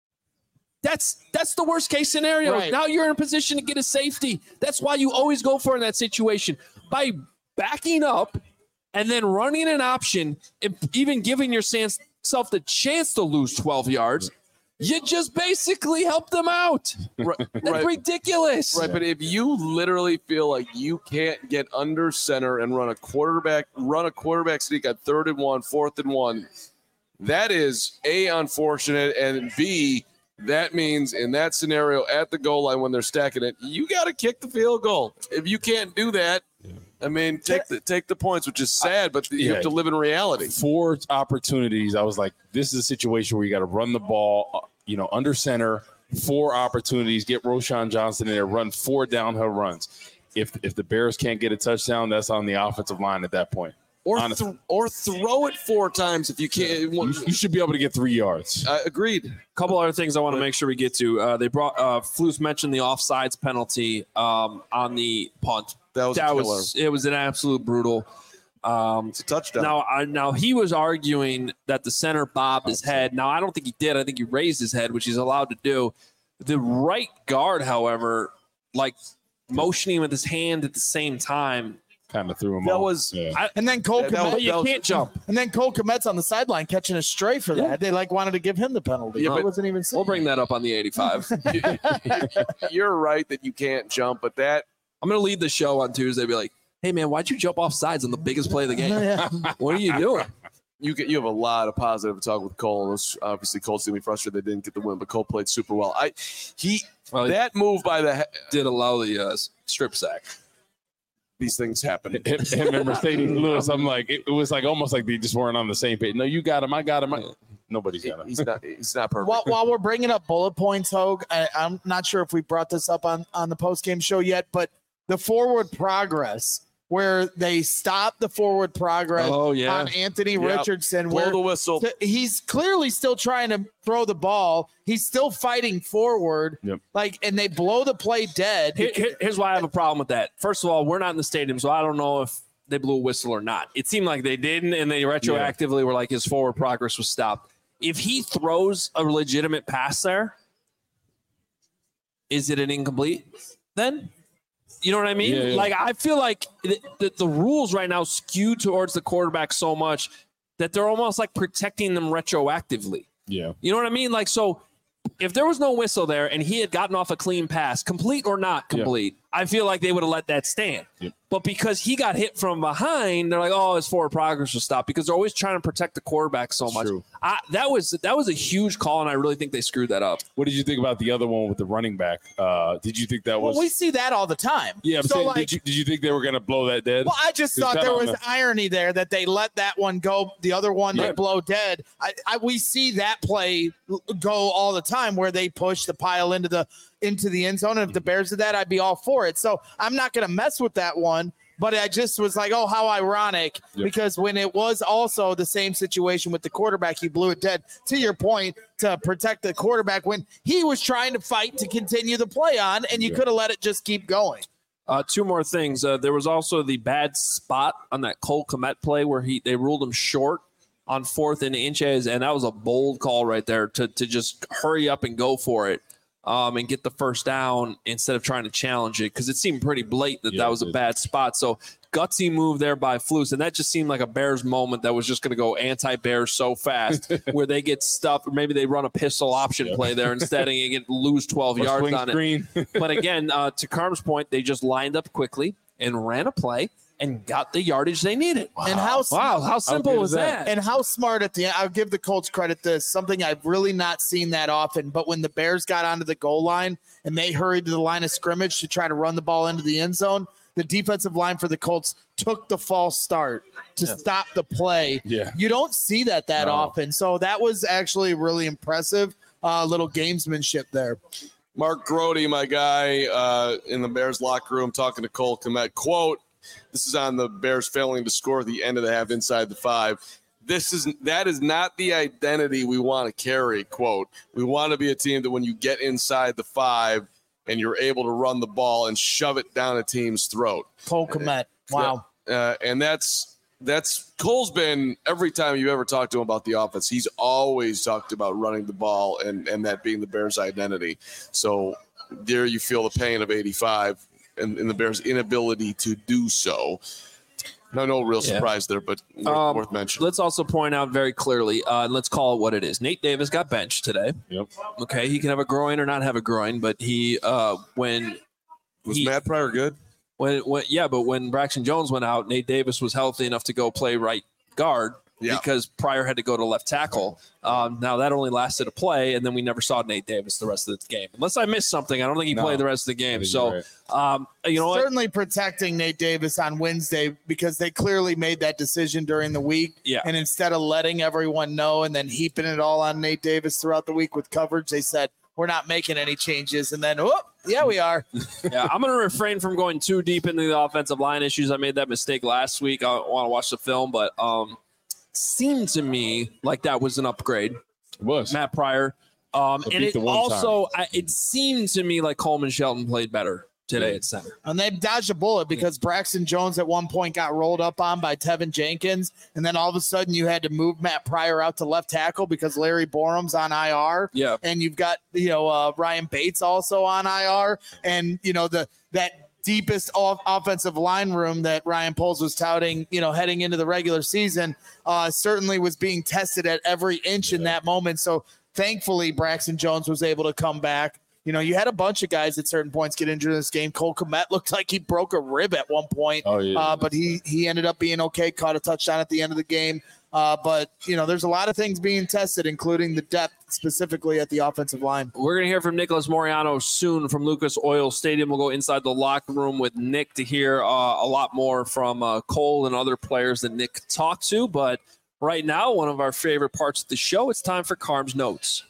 That's the worst-case scenario. Right. Now you're in a position to get a safety. That's why you always go for it in that situation. By backing up and then running an option, and even giving yourself the chance to lose 12 yards, you just basically help them out. That's ridiculous. Right, but if you literally feel like you can't get under center and run a quarterback sneak on 3rd and 1, 4th and 1, that is A, unfortunate, and B, that means in that scenario at the goal line when they're stacking it, you got to kick the field goal. If you can't do that, I mean, take the points, which is sad, but you have to live in reality. 4 opportunities. I was like, this is a situation where you got to run the ball, under center, 4 opportunities, get Roschon Johnson in there, run 4 downhill runs. If the Bears can't get a touchdown, that's on the offensive line at that point. Or throw it 4 times if you can't. You should be able to get 3 yards. Agreed. A couple other things I want to make sure we get to. They brought Flus mentioned the offsides penalty on the punt. That was it was an absolute brutal. It's a touchdown. Now he was arguing that the center bobbed his head. Now I don't think he did. I think he raised his head, which he's allowed to do. The right guard, however, motioning with his hand at the same time, kind of threw him off. And then Cole Kmet, you can't jump. And then Cole Kmet's on the sideline catching a stray for that. They wanted to give him the penalty. Yeah, it wasn't even. We'll bring that up on the 85. You're right that you can't jump, but I'm going to lead the show on Tuesday. Be like, hey man, why'd you jump off sides on the biggest play of the game? What are you doing? You have a lot of positive to talk with Cole. Obviously, Cole's going to be frustrated they didn't get the win, but Cole played super well. That move by the did allow the strip sack. These things happen. Him and Mercedes Lewis, I'm like, it was almost like they just weren't on the same page. No, you got him. I got him. Nobody's got him. He's not perfect. While we're bringing up bullet points, Hogue, I'm not sure if we brought this up on the post-game show yet, but the forward progress where they stopped the forward progress on Anthony Richardson. Blow the whistle. He's clearly still trying to throw the ball. He's still fighting forward. Yep. And they blow the play dead. Here's why I have a problem with that. First of all, we're not in the stadium, so I don't know if they blew a whistle or not. It seemed like they didn't, and they retroactively were like his forward progress was stopped. If he throws a legitimate pass there, is it an incomplete then? You know what I mean? Yeah. I feel like the rules right now skew towards the quarterback so much that they're almost like protecting them retroactively. Yeah. You know what I mean? So if there was no whistle there and he had gotten off a clean pass, complete or not complete, I feel like they would have let that stand. Yep. But because he got hit from behind, they're like, oh, his forward progress will stop because they're always trying to protect the quarterback so much. True. That was a huge call, and I really think they screwed that up. What did you think about the other one with the running back? Did you think that was? Well, we see that all the time. Yeah, so did you think they were going to blow that dead? Well, I just thought there was irony there that they let that one go. The other one they blow dead. We see that play go all the time where they push the pile into the end zone. And if the Bears did that, I'd be all for it. So I'm not going to mess with that one. But I just was like, oh, how ironic, because when it was also the same situation with the quarterback, you blew it dead. To your point, to protect the quarterback when he was trying to fight to continue the play on, and you could have let it just keep going. Two more things. There was also the bad spot on that Cole Kmet play where they ruled him short on 4th and inches, and that was a bold call right there to just hurry up and go for it and get the first down instead of trying to challenge it, because it seemed pretty blatant that was a bad spot. So gutsy move there by Flus, and that just seemed like a Bears moment that was just going to go anti-Bears so fast where they get stuffed, or maybe they run a pistol option play there instead and lose 12 yards on it. But again, to Carm's point, they just lined up quickly and ran a play and got the yardage they needed. Wow. And how simple was that? And how smart at the end. I'll give the Colts credit this, something I've really not seen that often, but when the Bears got onto the goal line and they hurried to the line of scrimmage to try to run the ball into the end zone, the defensive line for the Colts took the false start to stop the play. Yeah. You don't see that often. So that was actually really impressive, little gamesmanship there. Mark Grody, my guy, in the Bears locker room talking to Cole Kmet, quote, this is on the Bears failing to score at the end of the half inside the 5. That is not the identity we want to carry, quote. We want to be a team that when you get inside the 5 and you're able to run the ball and shove it down a team's throat. Cole Kmet. Wow. And that's Cole's been, every time you ever talk to him about the offense, he's always talked about running the ball and that being the Bears' identity. So there you feel the pain of 85 and the Bears' inability to do so. No real surprise there, but worth mentioning. Let's also point out very clearly, let's call it what it is. Nate Davis got benched today. Yep. Okay, he can have a groin or not have a groin, but Matt Pryor good? But when Braxton Jones went out, Nate Davis was healthy enough to go play right guard because Pryor had to go to left tackle. Now that only lasted a play, and then we never saw Nate Davis the rest of the game. Unless I missed something, I don't think he played the rest of the game. So, certainly protecting Nate Davis on Wednesday, because they clearly made that decision during the week. Yeah. And instead of letting everyone know and then heaping it all on Nate Davis throughout the week with coverage, they said, we're not making any changes. And then, we are. I'm going to refrain from going too deep into the offensive line issues. I made that mistake last week. I want to watch the film, but seemed to me like that was an upgrade. It was. Matt Pryor. And it also, it seemed to me like Coleman Shelton played better today at center. And they dodged a bullet because Braxton Jones at one point got rolled up on by Tevin Jenkins. And then all of a sudden you had to move Matt Pryor out to left tackle because Larry Borum's on IR. Yeah. And you've got, Ryan Bates also on IR. And, that deepest offensive line room that Ryan Poles was touting, heading into the regular season, certainly was being tested at every inch in that moment. So thankfully, Braxton Jones was able to come back. You had a bunch of guys at certain points get injured in this game. Cole Kmet looked like he broke a rib at one point, but he ended up being okay, caught a touchdown at the end of the game. But there's a lot of things being tested, including the depth specifically at the offensive line. We're going to hear from Nicholas Moreano soon from Lucas Oil Stadium. We'll go inside the locker room with Nick to hear a lot more from Cole and other players that Nick talked to. But right now, one of our favorite parts of the show, it's time for Carm's Notes.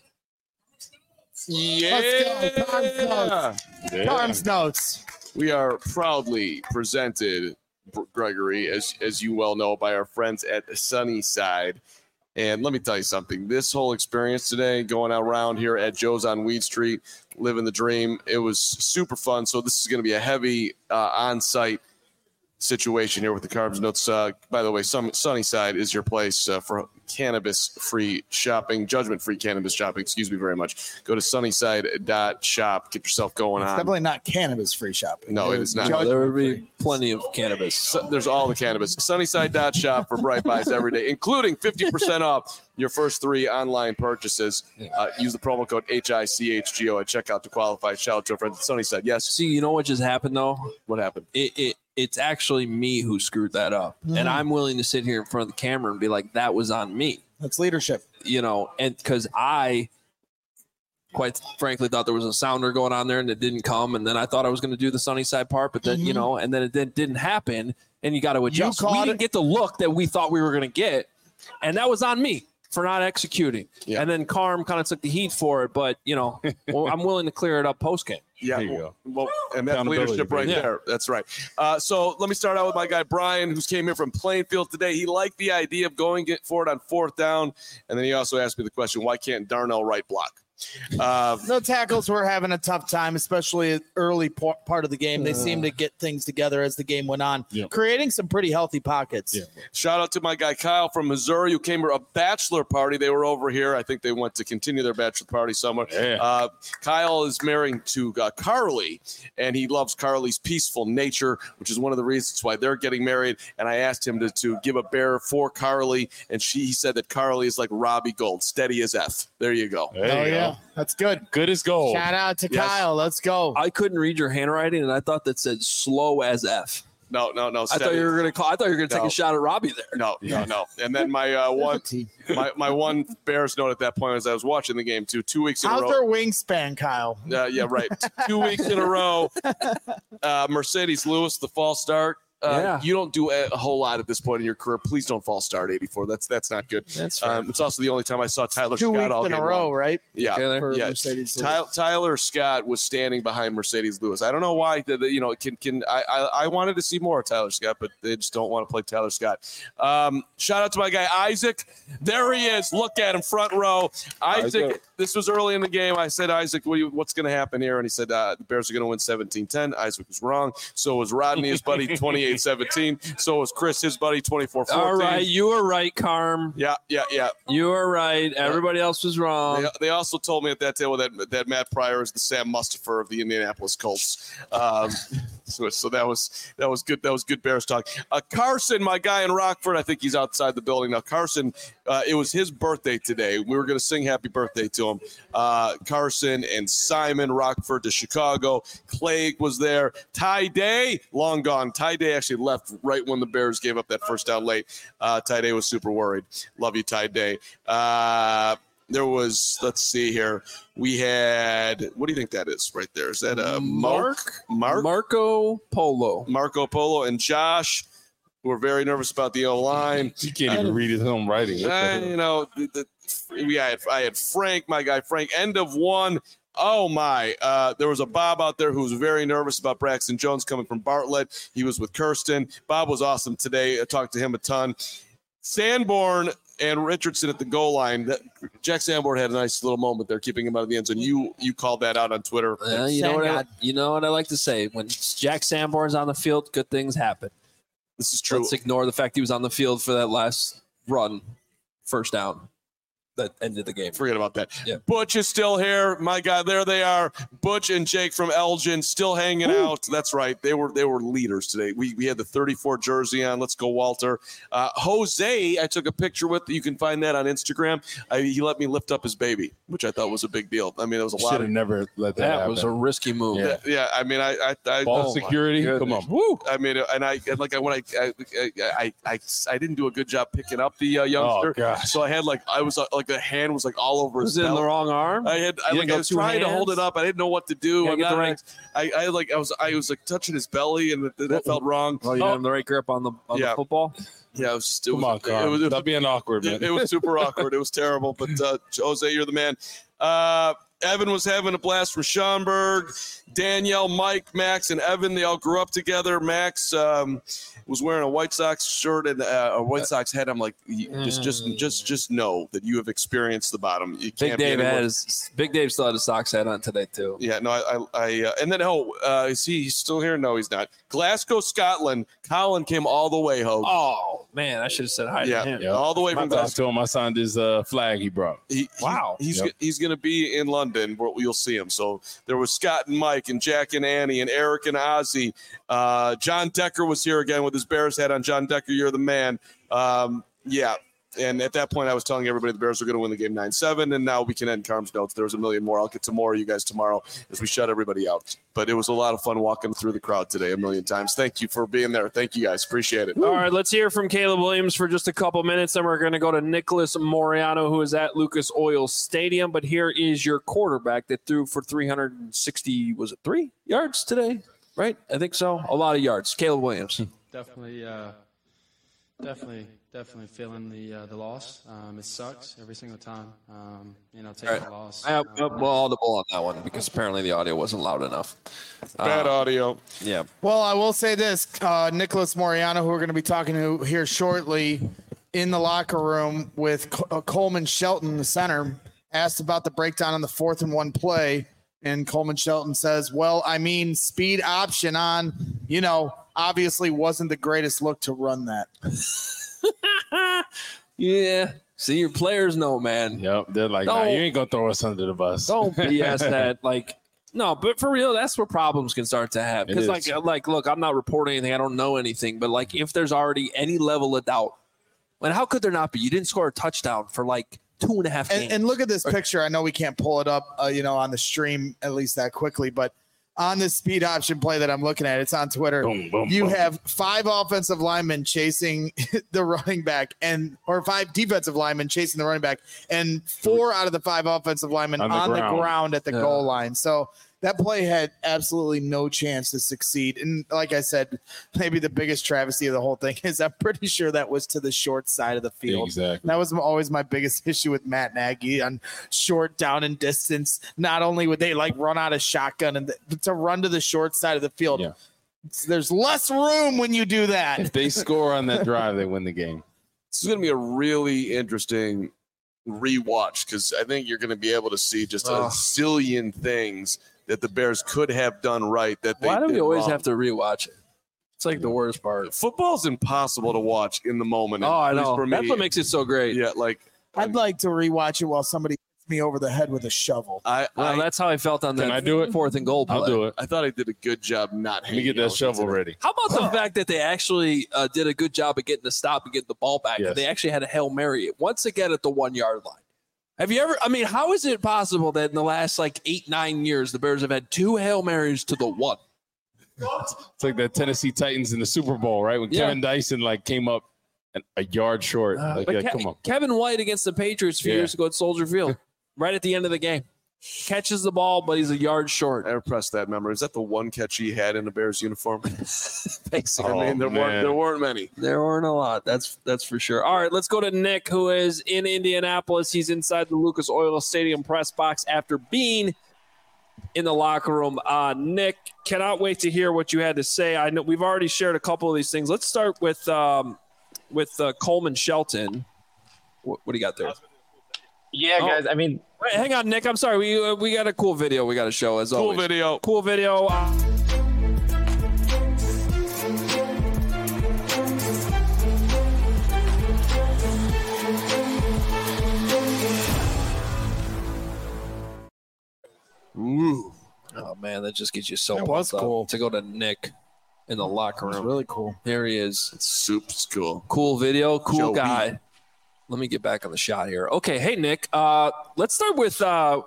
Yeah. Let's go. Carm's Notes. Carm's Notes. We are proudly presented, Gregory, as you well know, by our friends at Sunnyside. And let me tell you something. This whole experience today, going around here at Joe's on Weed Street, living the dream, it was super fun. So this is going to be a heavy on-site situation here with the Carbs Notes. By the way, Sunnyside is your place for cannabis-free shopping, judgment-free cannabis shopping. Excuse me very much. Go to sunnyside.shop. Get yourself going on. Definitely not cannabis-free shopping. No, it is not. No, there would be plenty of cannabis. There's all the cannabis. Sunnyside.shop for bright buys every day, including 50% off your first 3 online purchases. Use the promo code HICHGO at checkout to qualify. Shout out to our friends at Sunnyside. Yes. See, you know what just happened, though? What happened? It's actually me who screwed that up. And I'm willing to sit here in front of the camera and be like, that was on me. That's leadership. And because I quite frankly thought there was a sounder going on there and it didn't come. And then I thought I was going to do the Sunnyside part, but then, and then it didn't happen and you got to adjust. We didn't get the look that we thought we were going to get. And that was on me. for not executing. Yeah. And then Carm kind of took the heat for it, but, well, I'm willing to clear it up post-game. Yeah, There you go. Well, and that's leadership right there. That's right. So let me start out with my guy Brian, who's came here from Plainfield today. He liked the idea of going for it on 4th down, and then he also asked me the question, why can't Darnell right block? No tackles were having a tough time, especially early part of the game. They seemed to get things together as the game went on, creating some pretty healthy pockets. Yeah. Shout out to my guy Kyle from Missouri, who came for a bachelor party. They were over here. I think they went to continue their bachelor party somewhere. Yeah. Kyle is married to Carly, and he loves Carly's peaceful nature, which is one of the reasons why they're getting married. And I asked him to give a bear for Carly, and he said that Carly is like Robbie Gold, steady as F. There you go. There you go. That's good. Good as gold. Shout out to Kyle. Let's go. I couldn't read your handwriting, and I thought that said slow as F. No. I thought you were going to take a shot at Robbie there. No. And then my one Bears note at that point as I was watching the game too. 2 weeks in a row. How's their wingspan, Kyle? Yeah, right. 2 weeks in a row. Mercedes Lewis, the false start. You don't do a whole lot at this point in your career. Please don't false start 84. That's not good. That's right. It's also the only time I saw Tyler 2 Scott weeks all in game a row, long. right? Yeah, For yeah. Mercedes Tyler Scott was standing behind Mercedes Lewis. I don't know why. I wanted to see more of Tyler Scott, but they just don't want to play Tyler Scott. Shout out to my guy Isaac. There he is. Look at him, front row. Isaac. This was early in the game. I said, Isaac, what's going to happen here? And he said, the Bears are going to win 17-10. Isaac was wrong. So was Rodney, his buddy, 28-17. So was Chris, his buddy, 24-14. All right, you were right, Carm. Yeah. You were right. Everybody else was wrong. They also told me at that table that Matt Pryor is the Sam Mustipher of the Indianapolis Colts. So that was good. That was good Bears talk. Carson, my guy in Rockford, I think he's outside the building now. Carson, it was his birthday today. We were going to sing happy birthday to him. Carson and Simon, Rockford to Chicago. Clay was there. Ty Day, long gone. Ty Day actually left right when the Bears gave up that first down late. Ty Day was super worried. Love you, Ty Day. There was, let's see here. We had, what do you think that is right there? Is that Marco Polo? Marco Polo and Josh, who were very nervous about the O-line. You can't even read his own writing. I had Frank, my guy Frank, end of one. Oh, my. There was a Bob out there who was very nervous about Braxton Jones coming from Bartlett. He was with Kirsten. Bob was awesome today. I talked to him a ton. Sanborn and Richardson at the goal line. Jack Sanborn had a nice little moment there, keeping him out of the end zone. You called that out on Twitter. You know what I like to say? When Jack Sanborn's on the field, good things happen. This is true. Let's ignore the fact he was on the field for that last run, first down. That ended the game. Forget about that. Yeah. Butch is still here. My God, there they are. Butch and Jake from Elgin still hanging out. That's right. They were leaders today. We had the 34 jersey on. Let's go, Walter. Jose, I took a picture with. You can find that on Instagram. He let me lift up his baby, which I thought was a big deal. I mean, it was a lot. Should have never let that happen. That was a risky move. Yeah. I mean, I ball security. Come on. Woo. I mean, and I didn't do a good job picking up the youngster. Oh, gosh. So I had the hand was all over his belly. Was it in the wrong arm? I was trying to hold it up. I didn't know what to do. I was touching his belly, and that felt wrong. Oh, you had the right grip on the football. Yeah, it was just. Stop being awkward, man. It was super awkward. It was terrible. But Jose, you're the man. Evan was having a blast from Schaumburg. Danielle, Mike, Max, and Evan, they all grew up together. Max was wearing a White Sox shirt and a White Sox hat. I'm like, just know that you have experienced the bottom. You can't Big Dave still had a Sox hat on today too. Yeah, no, and then is he still here? No, he's not. Glasgow, Scotland. Colin came all the way, Hogue. Oh man, I should have said hi to him. Yeah, all the way from Glasgow. I signed his flag he brought. He's going to be in London where you'll see him. So there was Scott and Mike and Jack and Annie and Eric and Ozzy. John Decker was here again with his Bears hat on. John Decker, you're the man. Yeah. And at that point, I was telling everybody the Bears were going to win the game 9-7, and now we can end Carm's notes. There was a million more. I'll get to more of you guys tomorrow as we shut everybody out. But it was a lot of fun walking through the crowd today a million times. Thank you for being there. Thank you, guys. Appreciate it. All right, let's hear from Caleb Williams for just a couple minutes, then we're going to go to Nicholas Moriano, who is at Lucas Oil Stadium. But here is your quarterback that threw for 360, was it 3 yards today? Right? I think so. A lot of yards. Caleb Williams. Definitely Definitely feeling the loss. It sucks every single time. Taking All right. a loss. Well, audible on that one because apparently the audio wasn't loud enough. Bad audio. Yeah. Well, I will say this: Nicholas Moriano, who we're going to be talking to here shortly, in the locker room with Coleman Shelton, the center, asked about the breakdown on the 4th and 1 play, and Coleman Shelton says, "Well, I mean, speed option on, obviously wasn't the greatest look to run that." Yeah. See, your players know, man. Yep. They're like, nah, you ain't going to throw us under the bus. Don't BS that. No, but for real, that's where problems can start to happen. Because, look, I'm not reporting anything. I don't know anything. But, if there's already any level of doubt, and how could there not be? You didn't score a touchdown for, 2.5 games. And look at this picture. I know we can't pull it up, on the stream at least that quickly, but on this speed option play that I'm looking at, it's on Twitter. You have 5 offensive linemen chasing the running back or 5 defensive linemen chasing the running back, and 4 out of the 5 offensive linemen on the ground at the goal line. So that play had absolutely no chance to succeed. And like I said, maybe the biggest travesty of the whole thing is I'm pretty sure that was to the short side of the field. Exactly. That was always my biggest issue with Matt Nagy on short down and distance. Not only would they run out of shotgun and to run to the short side of the field. Yeah. There's less room when you do that. If they score on that drive, they win the game. This is going to be a really interesting rewatch because I think you're going to be able to see just a zillion things that the Bears could have done right. Why do we always have to rewatch it? It's the worst part. Football's impossible to watch in the moment. Oh, I know. That's what makes it so great. Yeah, I'd like to rewatch it while somebody hits me over the head with a shovel. That's how I felt on that 4th and goal play. I'll do it. I thought I did a good job not hanging. Let me get that shovel ready. How about the fact that they actually did a good job of getting the stop and getting the ball back? Yes. They actually had a Hail Mary once again at the 1-yard line. Have you ever – how is it possible that in the last 8-9 years the Bears have had 2 Hail Marys to the 1? It's like the Tennessee Titans in the Super Bowl, right? When Kevin Dyson came up a yard short. Come on. Kevin White against the Patriots a few years ago at Soldier Field, right at the end of the game. Catches the ball, but he's a yard short. I repressed that memory. Is that the one catch he had in the Bears uniform? Basically. There weren't many. There weren't a lot. That's for sure. All right, let's go to Nick, who is in Indianapolis. He's inside the Lucas Oil Stadium press box after being in the locker room. Nick, cannot wait to hear what you had to say. I know we've already shared a couple of these things. Let's start with Coleman Shelton. What do you got there? Yeah, guys. Wait, hang on, Nick. I'm sorry. We got a cool video we got to show as always. Cool video. Ooh. Oh man, that just gets you so pumped up to go to Nick in the locker room. It's really cool. There he is. It's super cool. Cool video. Cool Joey. guy. Let me get back on the shot here. Okay, hey, Nick, let's start with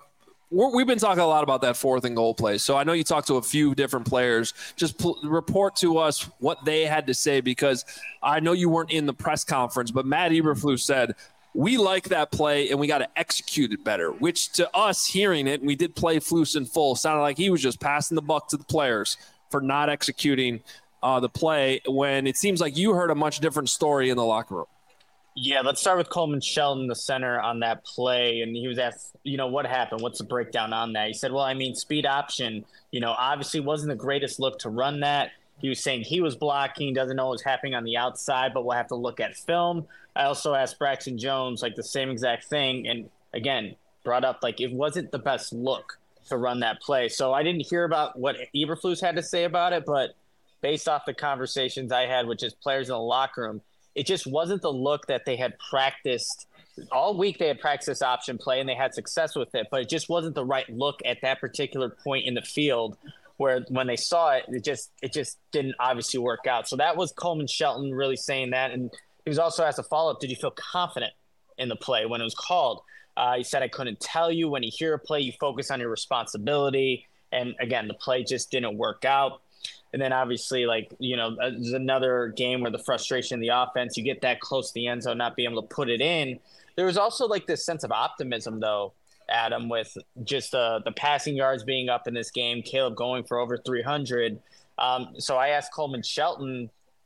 we've been talking a lot about that 4th and goal play. So I know you talked to a few different players. Just report to us what they had to say because I know you weren't in the press conference, but Matt Eberflus said, we like that play and we got to execute it better, which to us hearing it, and we did play Flus in full, sounded like he was just passing the buck to the players for not executing the play when it seems like you heard a much different story in the locker room. Yeah, let's start with Coleman Shelton, the center on that play. And he was asked, what happened? What's the breakdown on that? He said, speed option, obviously wasn't the greatest look to run that. He was saying he was blocking, doesn't know what was happening on the outside, but we'll have to look at film. I also asked Braxton Jones, the same exact thing. And again, brought up, it wasn't the best look to run that play. So I didn't hear about what Eberflus had to say about it, but based off the conversations I had with just players in the locker room, it just wasn't the look that they had practiced all week. They had practiced this option play and they had success with it, but it just wasn't the right look at that particular point in the field where when they saw it, it just didn't obviously work out. So that was Coleman Shelton really saying that. And he was also asked a follow-up, did you feel confident in the play when it was called? He said, I couldn't tell you. When you hear a play, you focus on your responsibility. And again, the play just didn't work out. And then obviously, there's another game where the frustration in the offense, you get that close to the end zone, not being able to put it in. There was also this sense of optimism, though, Adam, with just the passing yards being up in this game, Caleb going for over 300. So I asked Coleman Shelton,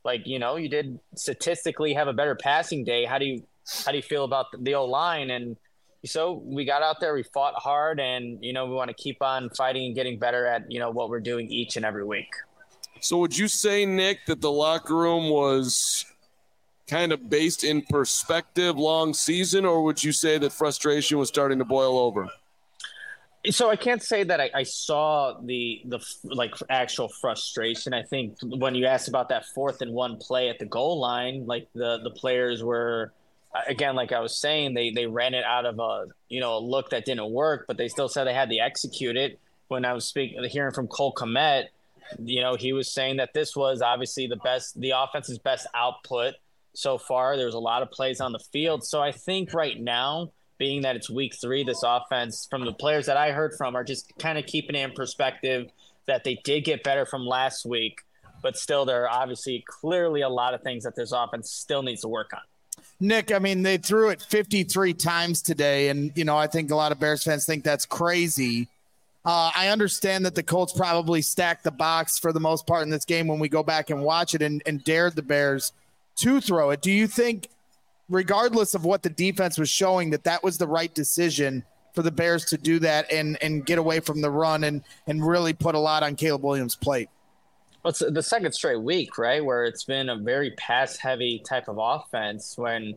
Like, you did statistically have a better passing day. How do you feel about the O-line? And so we got out there, we fought hard, and, we want to keep on fighting and getting better at, what we're doing each and every week. So would you say, Nick, that the locker room was kind of based in perspective long season, or would you say that frustration was starting to boil over? So I can't say that I saw the actual frustration. I think when you asked about that 4th and 1 play at the goal line, like the players were, again, like I was saying, they ran it out of a look that didn't work, but they still said they had to execute it. When I was hearing from Cole Kmet, he was saying that this was obviously the offense's best output so far. There's a lot of plays on the field. So I think right now, being that it's week 3, this offense, from the players that I heard from, are just kind of keeping it in perspective that they did get better from last week, but still there are obviously clearly a lot of things that this offense still needs to work on. Nick, I mean, they threw it 53 times today, and, I think a lot of Bears fans think that's crazy. I understand that the Colts probably stacked the box for the most part in this game when we go back and watch it and dared the Bears to throw it. Do you think, regardless of what the defense was showing, that was the right decision for the Bears to do that and get away from the run and really put a lot on Caleb Williams' plate? Well, it's the second straight week, right, where it's been a very pass-heavy type of offense when,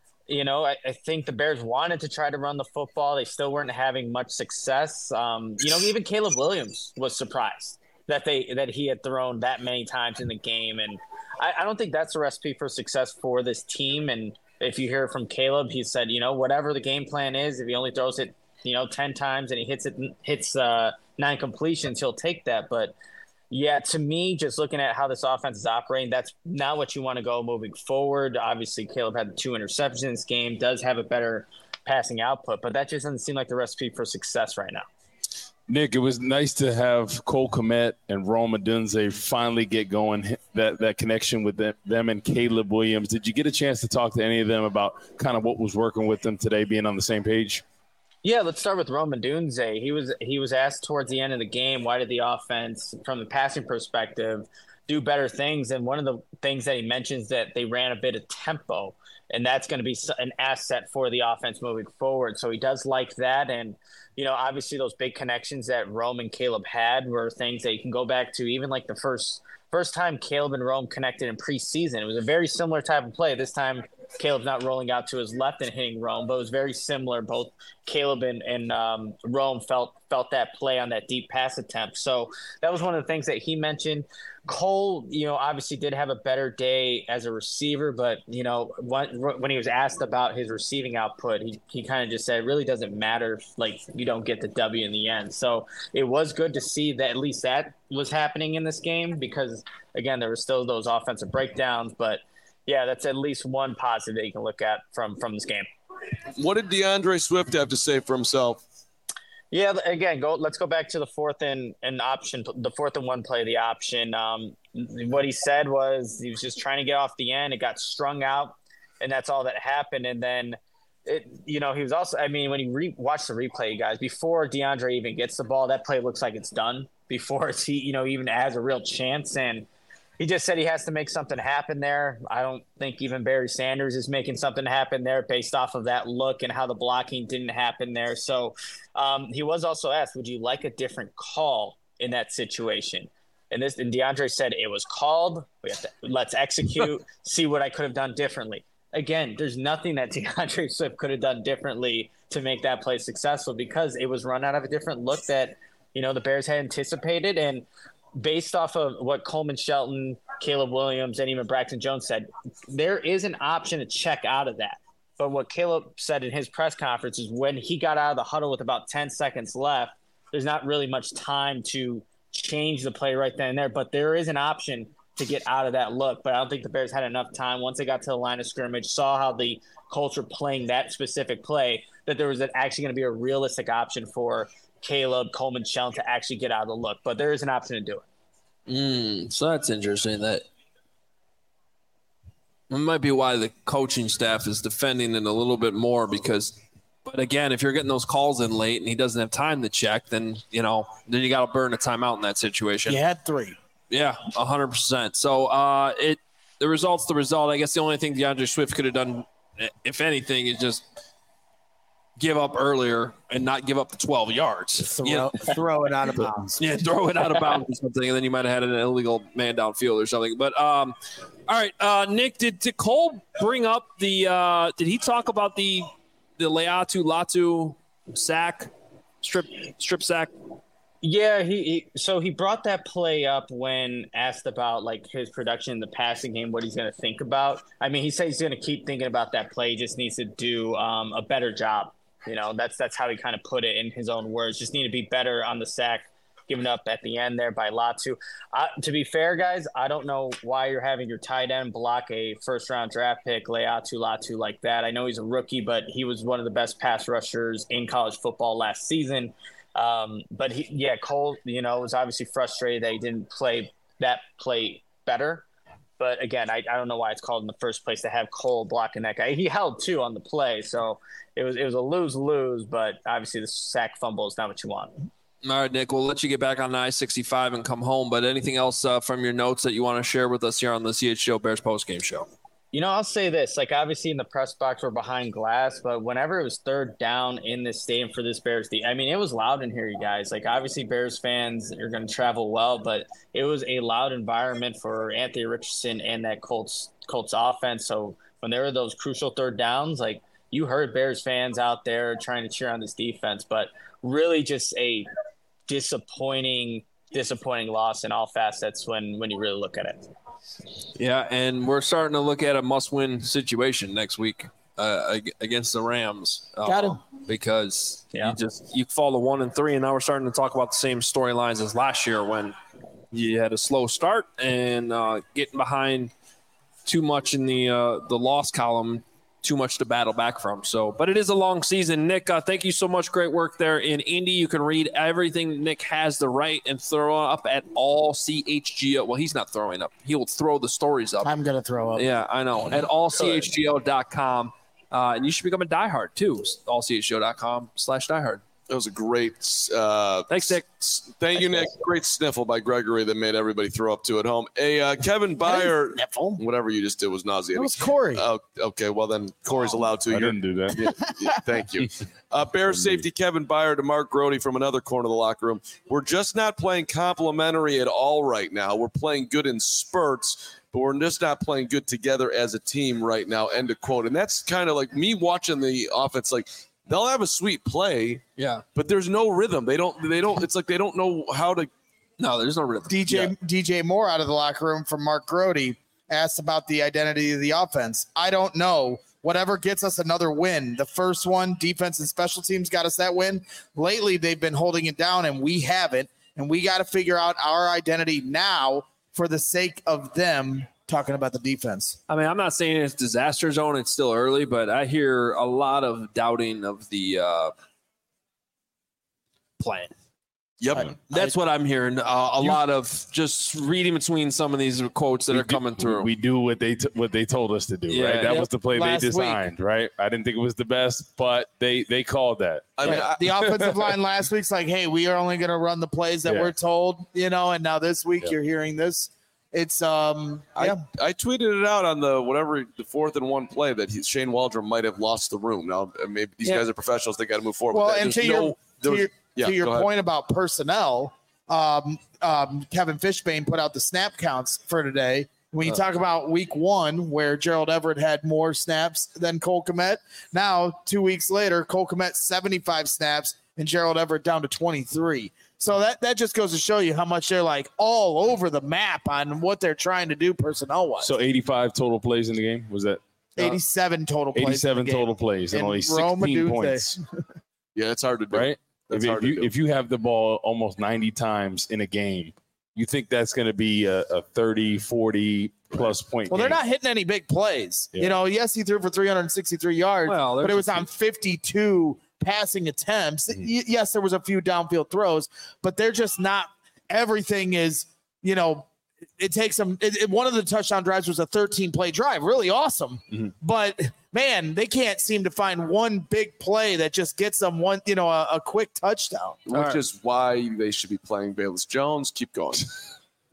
I think the Bears wanted to try to run the football. They still weren't having much success. Even Caleb Williams was surprised that he had thrown that many times in the game. And I don't think that's a recipe for success for this team. And if you hear from Caleb, he said, whatever the game plan is, if he only throws it, 10 times and he hits 9 completions, he'll take that. But yeah, to me, just looking at how this offense is operating, that's not what you want to go moving forward. Obviously, Caleb had 2 interceptions in this game, does have a better passing output, but that just doesn't seem like the recipe for success right now. Nick, it was nice to have Cole Kmet and Rome Odunze finally get going, that connection with them and Caleb Williams. Did you get a chance to talk to any of them about kind of what was working with them today, being on the same page? Yeah, let's start with Rome Odunze. He was asked towards the end of the game, why did the offense, from the passing perspective, do better things? And one of the things that he mentions that they ran a bit of tempo, and that's going to be an asset for the offense moving forward. So he does like that. And, obviously those big connections that Rome and Caleb had were things that you can go back to, even like the first time Caleb and Rome connected in preseason. It was a very similar type of play. This time Caleb's not rolling out to his left and hitting Rome, but it was very similar. Both Caleb and Rome felt that play on that deep pass attempt. So that was one of the things that he mentioned. Cole, obviously did have a better day as a receiver, but, when he was asked about his receiving output, he kind of just said it really doesn't matter if, you don't get the W in the end. So it was good to see that at least that was happening in this game because, again, there were still those offensive breakdowns, but yeah, that's at least one positive that you can look at from this game. What did DeAndre Swift have to say for himself? Yeah, again, let's go back to the 4th and option, the 4th and 1 play, the option. What he said was he was just trying to get off the end. It got strung out, and that's all that happened. And then, he was also, when you watch the replay, you guys, before DeAndre even gets the ball, that play looks like it's done before he, even has a real chance. And he just said he has to make something happen there. I don't think even Barry Sanders is making something happen there based off of that look and how the blocking didn't happen there. So he was also asked, would you like a different call in that situation? And DeAndre said, it was called. Let's execute, see what I could have done differently. Again, there's nothing that DeAndre Swift could have done differently to make that play successful because it was run out of a different look that, the Bears had anticipated. And based off of what Coleman Shelton, Caleb Williams, and even Braxton Jones said, there is an option to check out of that. But what Caleb said in his press conference is when he got out of the huddle with about 10 seconds left, there's not really much time to change the play right then and there. But there is an option to get out of that look. But I don't think the Bears had enough time once they got to the line of scrimmage, saw how the Colts were playing that specific play, that there was actually going to be a realistic option for Caleb, Coleman Shelton to actually get out of the look. But there is an option to do it. So that's interesting. That might be why the coaching staff is defending it a little bit more because, but again, if you're getting those calls in late and he doesn't have time to check, then you got to burn a timeout in that situation. You had 3. Yeah, 100%. So the result's the result. I guess the only thing DeAndre Swift could have done, if anything, is just give up earlier and not give up the 12 yards. Throw it out of bounds. Yeah, throw it out of bounds or something, and then you might have had an illegal man downfield or something. But all right, Nick, did Cole bring up the? Did he talk about the Latu sack, strip sack? Yeah, he brought that play up when asked about like his production in the passing game, what he's going to think about. I mean, he said he's going to keep thinking about that play. He just needs to do a better job. You know, that's how he kind of put it in his own words. Just need to be better on the sack given up at the end there by Latu. To be fair, guys, I don't know why you're having your tight end block a first-round draft pick, Latu like that. I know he's a rookie, but he was one of the best pass rushers in college football last season. But Cole, was obviously frustrated that he didn't play that play better. But again, I don't know why it's called in the first place to have Cole blocking that guy. He held 2 on the play, so it was a lose-lose. But obviously, the sack fumble is not what you want. All right, Nick, we'll let you get back on the I-65 and come home. But anything else from your notes that you want to share with us here on the CHGO Bears postgame show? I'll say this. Like, obviously, in the press box, we're behind glass. But whenever it was third down in this stadium for this Bears team, I mean, it was loud in here, you guys. Like, obviously, Bears fans are going to travel well. But it was a loud environment for Anthony Richardson and that Colts offense. So when there were those crucial third downs, like, you heard Bears fans out there trying to cheer on this defense. But really just a disappointing loss in all facets when you really look at it. Yeah, and we're starting to look at a must-win situation next week against the Rams. Got him. Because you fall to 1-3, and now we're starting to talk about the same storylines as last year when you had a slow start and getting behind too much in the loss column, too much to battle back from. So, but it is a long season. Nick, thank you so much. Great work there in Indy. You can read everything Nick has to write and throw up at all CHGO. Well, he's not throwing up. He will throw the stories up. I'm going to throw up. Yeah, I know. At allchgo.com. And you should become a diehard too. allchgo.com/diehard. That was a great thanks, Nick. Thank you, Nick. Great sniffle by Gregory that made everybody throw up to at home. Kevin Byard, whatever you just did was nauseating. It was Corey. Oh, okay, well then Corey's allowed to. I didn't do that. Yeah, thank you. Bears safety Kevin Byard to Mark Grody from another corner of the locker room. We're just not playing complimentary at all right now. We're playing good in spurts, but we're just not playing good together as a team right now, end of quote. And that's kind of like me watching the offense, like, they'll have a sweet play, but there's no rhythm. They don't. It's like they don't know how to. No, there's no rhythm. DJ Moore out of the locker room from Mark Grody asked about the identity of the offense. I don't know. Whatever gets us another win. The first one, defense and special teams got us that win. Lately, they've been holding it down, and we haven't. And we got to figure out our identity now for the sake of them. Talking about the defense. I mean, I'm not saying it's disaster zone. It's still early, but I hear a lot of doubting of the plan. Yep. That's what I'm hearing. A lot of just reading between some of these quotes that are coming through. We do what they told us to do, right? That was the play they designed, right? I didn't think it was the best, but they called that. I mean, the offensive line last week's like, hey, we are only going to run the plays that we're told, and now this week you're hearing this. It's I tweeted it out on the 4th and 1 play that Shane Waldron might have lost the room. Now maybe these guys are professionals; they got to move forward. Well, and to your point about personnel, Kevin Fishbane put out the snap counts for today. When you talk about week 1, where Gerald Everett had more snaps than Cole Kmet, now 2 weeks later, Cole Kmet 75 snaps and Gerald Everett down to 23. So that just goes to show you how much they're like all over the map on what they're trying to do personnel-wise. So 85 total plays in the game? Was that? 87 total plays. 87 total plays and only 16 points. Yeah, it's hard to do. Right? If you have the ball almost 90 times in a game, you think that's going to be a 30, 40 plus point game. They're not hitting any big plays. Yeah. Yes, he threw for 363 yards, but it was on 52 passing attempts. Yes, there was a few downfield throws, but they're just not. Everything is, it takes them. One of the touchdown drives was a 13-play drive, really awesome. Mm-hmm. But man, they can't seem to find one big play that just gets them one, a quick touchdown. Which is why they should be playing Bayless Jones. Keep going.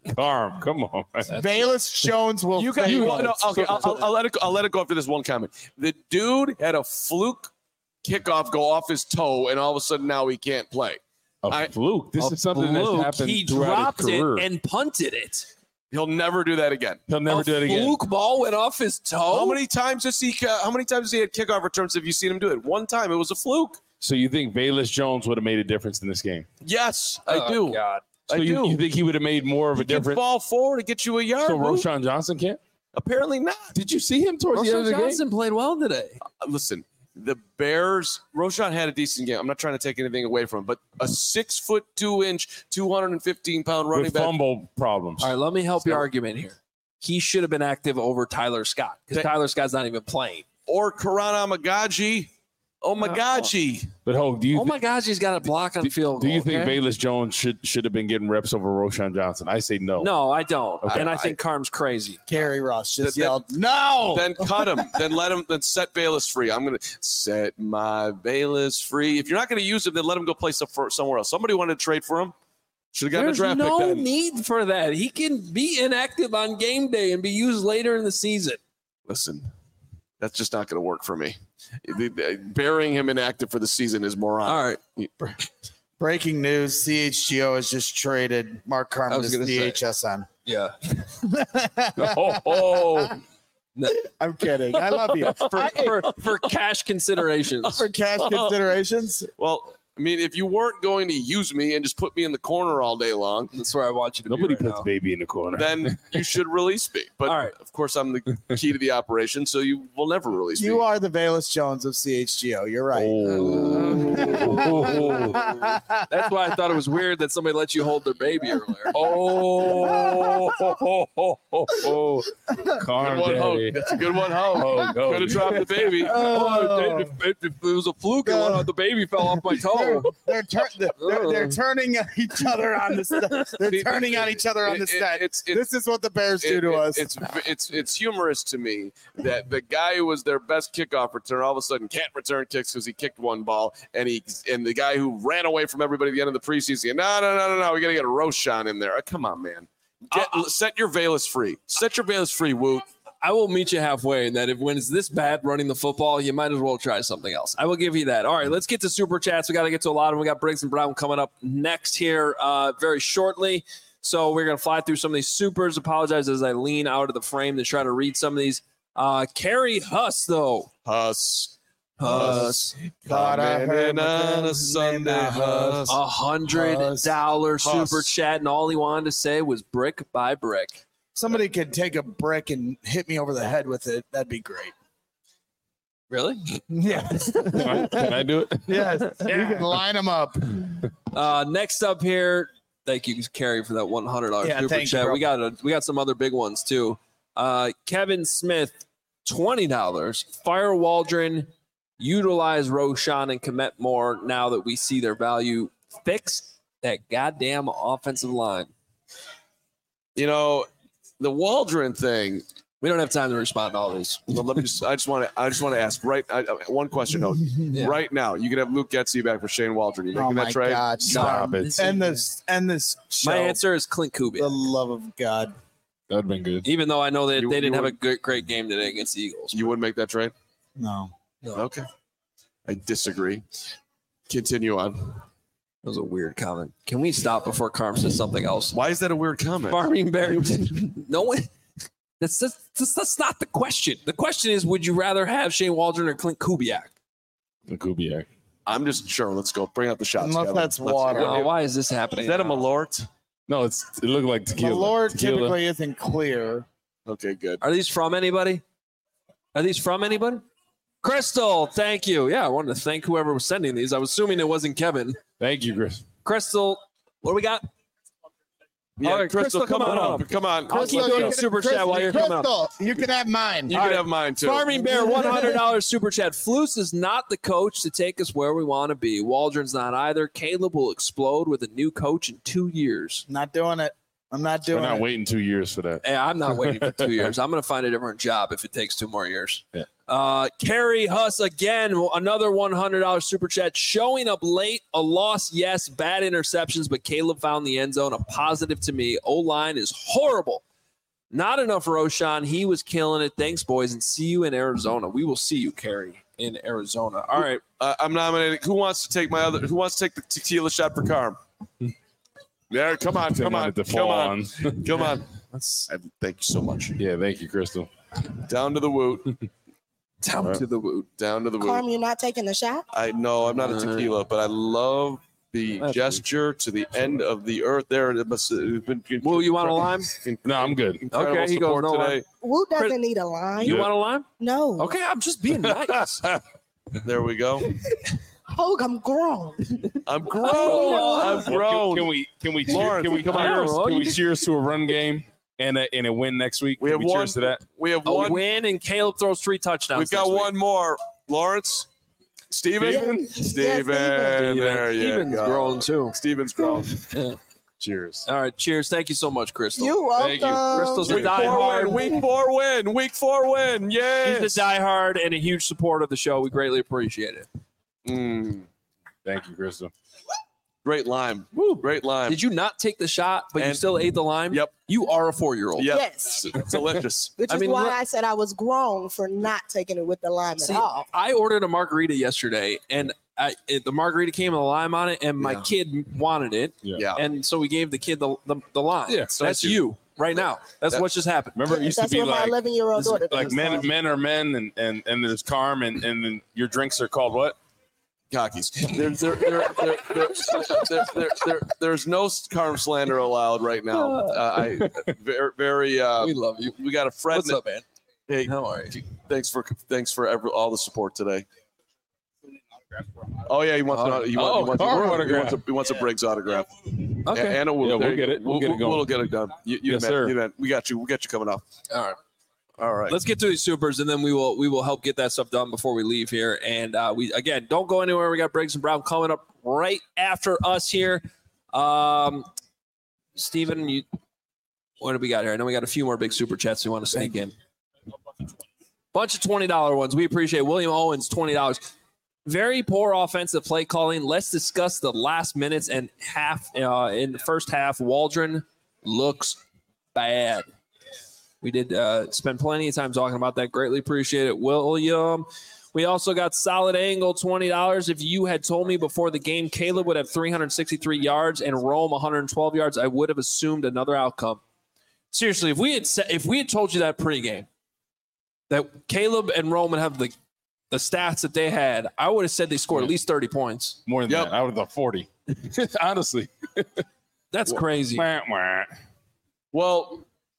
Carm, come on. Bayless Jones will. I'll let it go after this one comment. The dude had a fluke kickoff go off his toe, and all of a sudden now he can't play. Fluke. This is something that's happened. He dropped it and punted it. He'll never do that again. He'll never do it again. Fluke ball went off his toe. How many times has he had kickoff returns? Have you seen him do it? One time. It was a fluke. So you think Bayless Jones would have made a difference in this game? Yes, I do. God. So you think he would have made more of a difference? Ball forward to get you a yard. So Roschon Johnson can't? Apparently not. Did you see him towards the end of the game? Johnson played well today. Listen, the Bears, Roschon had a decent game. I'm not trying to take anything away from him, but a 6'2", 215-pound running with back. fumble problems. All right, let me help your argument here. He should have been active over Tyler Scott because Tyler Scott's not even playing. Or Karan Omagaji. But Hope, do you? Oh my gosh, he's got a block on field goal. Do you think Bayless Jones should have been getting reps over Roschon Johnson? I say no. No, I don't. Okay. And I think Carm's crazy. Kerry Ross just yelled, "No!" Then cut him. Then set Bayless free. I'm going to set my Bayless free. If you're not going to use him, then let him go play somewhere else. Somebody wanted to trade for him. Should have gotten a draft pick. There's no then. need for that. He can be inactive on game day and be used later in the season. Listen, that's just not going to work for me. Burying him inactive for the season is moronic. All right. Breaking news: CHGO has just traded Mark Carman to DHSN. Yeah. I'm kidding. I love you. For cash considerations. For cash considerations. Well, I mean, if you weren't going to use me and just put me in the corner all day long, that's where I want you to Nobody be puts baby in the corner. Then you should release me. But all right. Of course, I'm the key to the operation, so you will never release me. You are the Bayless Jones of CHGO. You're right. That's why I thought it was weird that somebody let you hold their baby earlier. Carm good one, Hope. That's a good one, Hope. Could have dropped the baby. If it was a fluke, the baby fell off my toe. They're turning at each other on the set. They're turning on each other on the set. This is what the Bears do to us. It's humorous to me that the guy who was their best kickoff return all of a sudden can't return kicks because he kicked one ball, and the guy who ran away from everybody at the end of the preseason. No, we got to get a Roschon in there. Come on, man. Set your Bayless free. Set your Bayless free, Woot. I will meet you halfway in that when it's this bad running the football, you might as well try something else. I will give you that. All right, let's get to Super Chats. We got to get to a lot of them. We got Briggs and Brown coming up next here very shortly. So we're going to fly through some of these supers. Apologize as I lean out of the frame to try to read some of these. Carrie Huss, though. Huss. Huss. Coming on a Sunday, Huss. $100 super chat, and all he wanted to say was brick by brick. Somebody could take a brick and hit me over the head with it. That'd be great. Really? Yes. Can I do it? Yes. Yeah. You can line them up. Next up here, thank you, Carrie, for that $100 super chat. We got some other big ones too. Kevin Smith, $20. Fire Waldron, utilize Roschon and Kmet more now that we see their value. Fix that goddamn offensive line. You know, the Waldron thing. We don't have time to respond to all these. Well, let me I just want to ask one question. Yeah. Right now, you can have Luke Getsy back for Shane Waldron. You making that trade? God, stop it. And this show. My answer is Clint Kubiak. The love of God. That'd been good. Even though I know that they didn't have a great game today against the Eagles. You wouldn't make that trade? No. Okay. I disagree. Continue on. That was a weird comment. Can we stop before Carm says something else? Why is that a weird comment? Farming Bear. No one. That's not the question. The question is, would you rather have Shane Waldron or Clint Kubiak? Kubiak. I'm just sure. Let's go. Bring out the shots. Unless that's water. Why is this happening? Is that a Malort? No, it looked like tequila. Malort typically isn't clear. Okay, good. Are these from anybody? Crystal, thank you. Yeah, I wanted to thank whoever was sending these. I was assuming it wasn't Kevin. Thank you, Chris. Crystal, what do we got? Yeah, all right, Crystal, come on up. Come on. I'll keep doing super chat while you're coming up. You can have mine. You can have mine, too. Farming Bear, $100 super chat. Flus is not the coach to take us where we want to be. Waldron's not either. Caleb will explode with a new coach in 2 years. Not doing it. I'm not doing We're not it. waiting 2 years for that. Hey, I'm not waiting for 2 years. I'm going to find a different job if it takes 2 more years. Yeah. Carrie Huss again, another $100 super chat. Showing up late, a loss, yes, bad interceptions, but Caleb found the end zone. A positive to me. O-line is horrible. Not enough Roshan. He was killing it. Thanks, boys, and see you in Arizona. We will see you, Carrie, in Arizona. All right. I'm nominating. Who wants to take the tequila shot for Carm? Yeah, come on. Come on. Thank you so much. Yeah, thank you, Crystal. Down to the woot. Down to the woot. Carm, you're not taking the shot? I know I'm not a tequila, but I love the gesture to the end of the earth there. It must have been. Will, you want a lime? No, I'm good. Okay, he goes, no today. Woot doesn't need a lime. You want a lime? No. Okay, I'm just being nice. There we go. Hogue, I'm grown. I'm grown. Can we cheers to a run game and a win next week? We have one. Cheers to that. We have A one win, and Caleb throws 3 touchdowns. We've got one more. Lawrence? Steven? Steven. There you Steven's go. grown, too. Steven's grown. Cheers. All right, cheers. Thank you so much, Crystal. You're welcome. Thank you. Crystal's a Week 4 diehard. win. Week 4 win. Yes. He's a diehard and a huge supporter of the show. We greatly appreciate it. Thank you, Crystal. Great lime. Woo, great lime. Did you not take the shot, but you still ate the lime? Yep. You are a 4-year-old. Yep. Yes. It's delicious. Which is why I said I was grown for not taking it with the lime at all. I ordered a margarita yesterday, and the margarita came with a lime on it, and my kid wanted it. Yeah. And so we gave the kid the lime. Yeah, so that's you right now. That's what just happened. Remember, it used to be what like my 11-year-old daughter like does. men are men, and there's Carm, and then your drinks are called what? Cockies. There's no Carm slander allowed right now. We love you. We got a friend. What's up, man? Hey, how are you? Thanks for all the support today. Oh yeah, he wants a Briggs autograph. Okay, and we'll get it. We'll get it going. We'll get it done. Yes, sir. We got you. We'll get you coming up. All right. Let's get to these supers, and then we will help get that stuff done before we leave here. And we again, don't go anywhere. We got Briggs and Brown coming up right after us here. Steven, what do we got here? I know we got a few more big super chats we want to sneak in. Bunch of $20 ones. We appreciate William Owens, $20. Very poor offensive play calling. Let's discuss the last minutes and half in the first half. Waldron looks bad. We did spend plenty of time talking about that. Greatly appreciate it, William. We also got Solid Angle, $20. If you had told me before the game Caleb would have 363 yards and Rome 112 yards, I would have assumed another outcome. Seriously, if we had told you that pregame, that Caleb and Rome would have the stats that they had, I would have said they scored at least 30 points. More than that. I would have thought 40. Honestly. That's crazy. Well,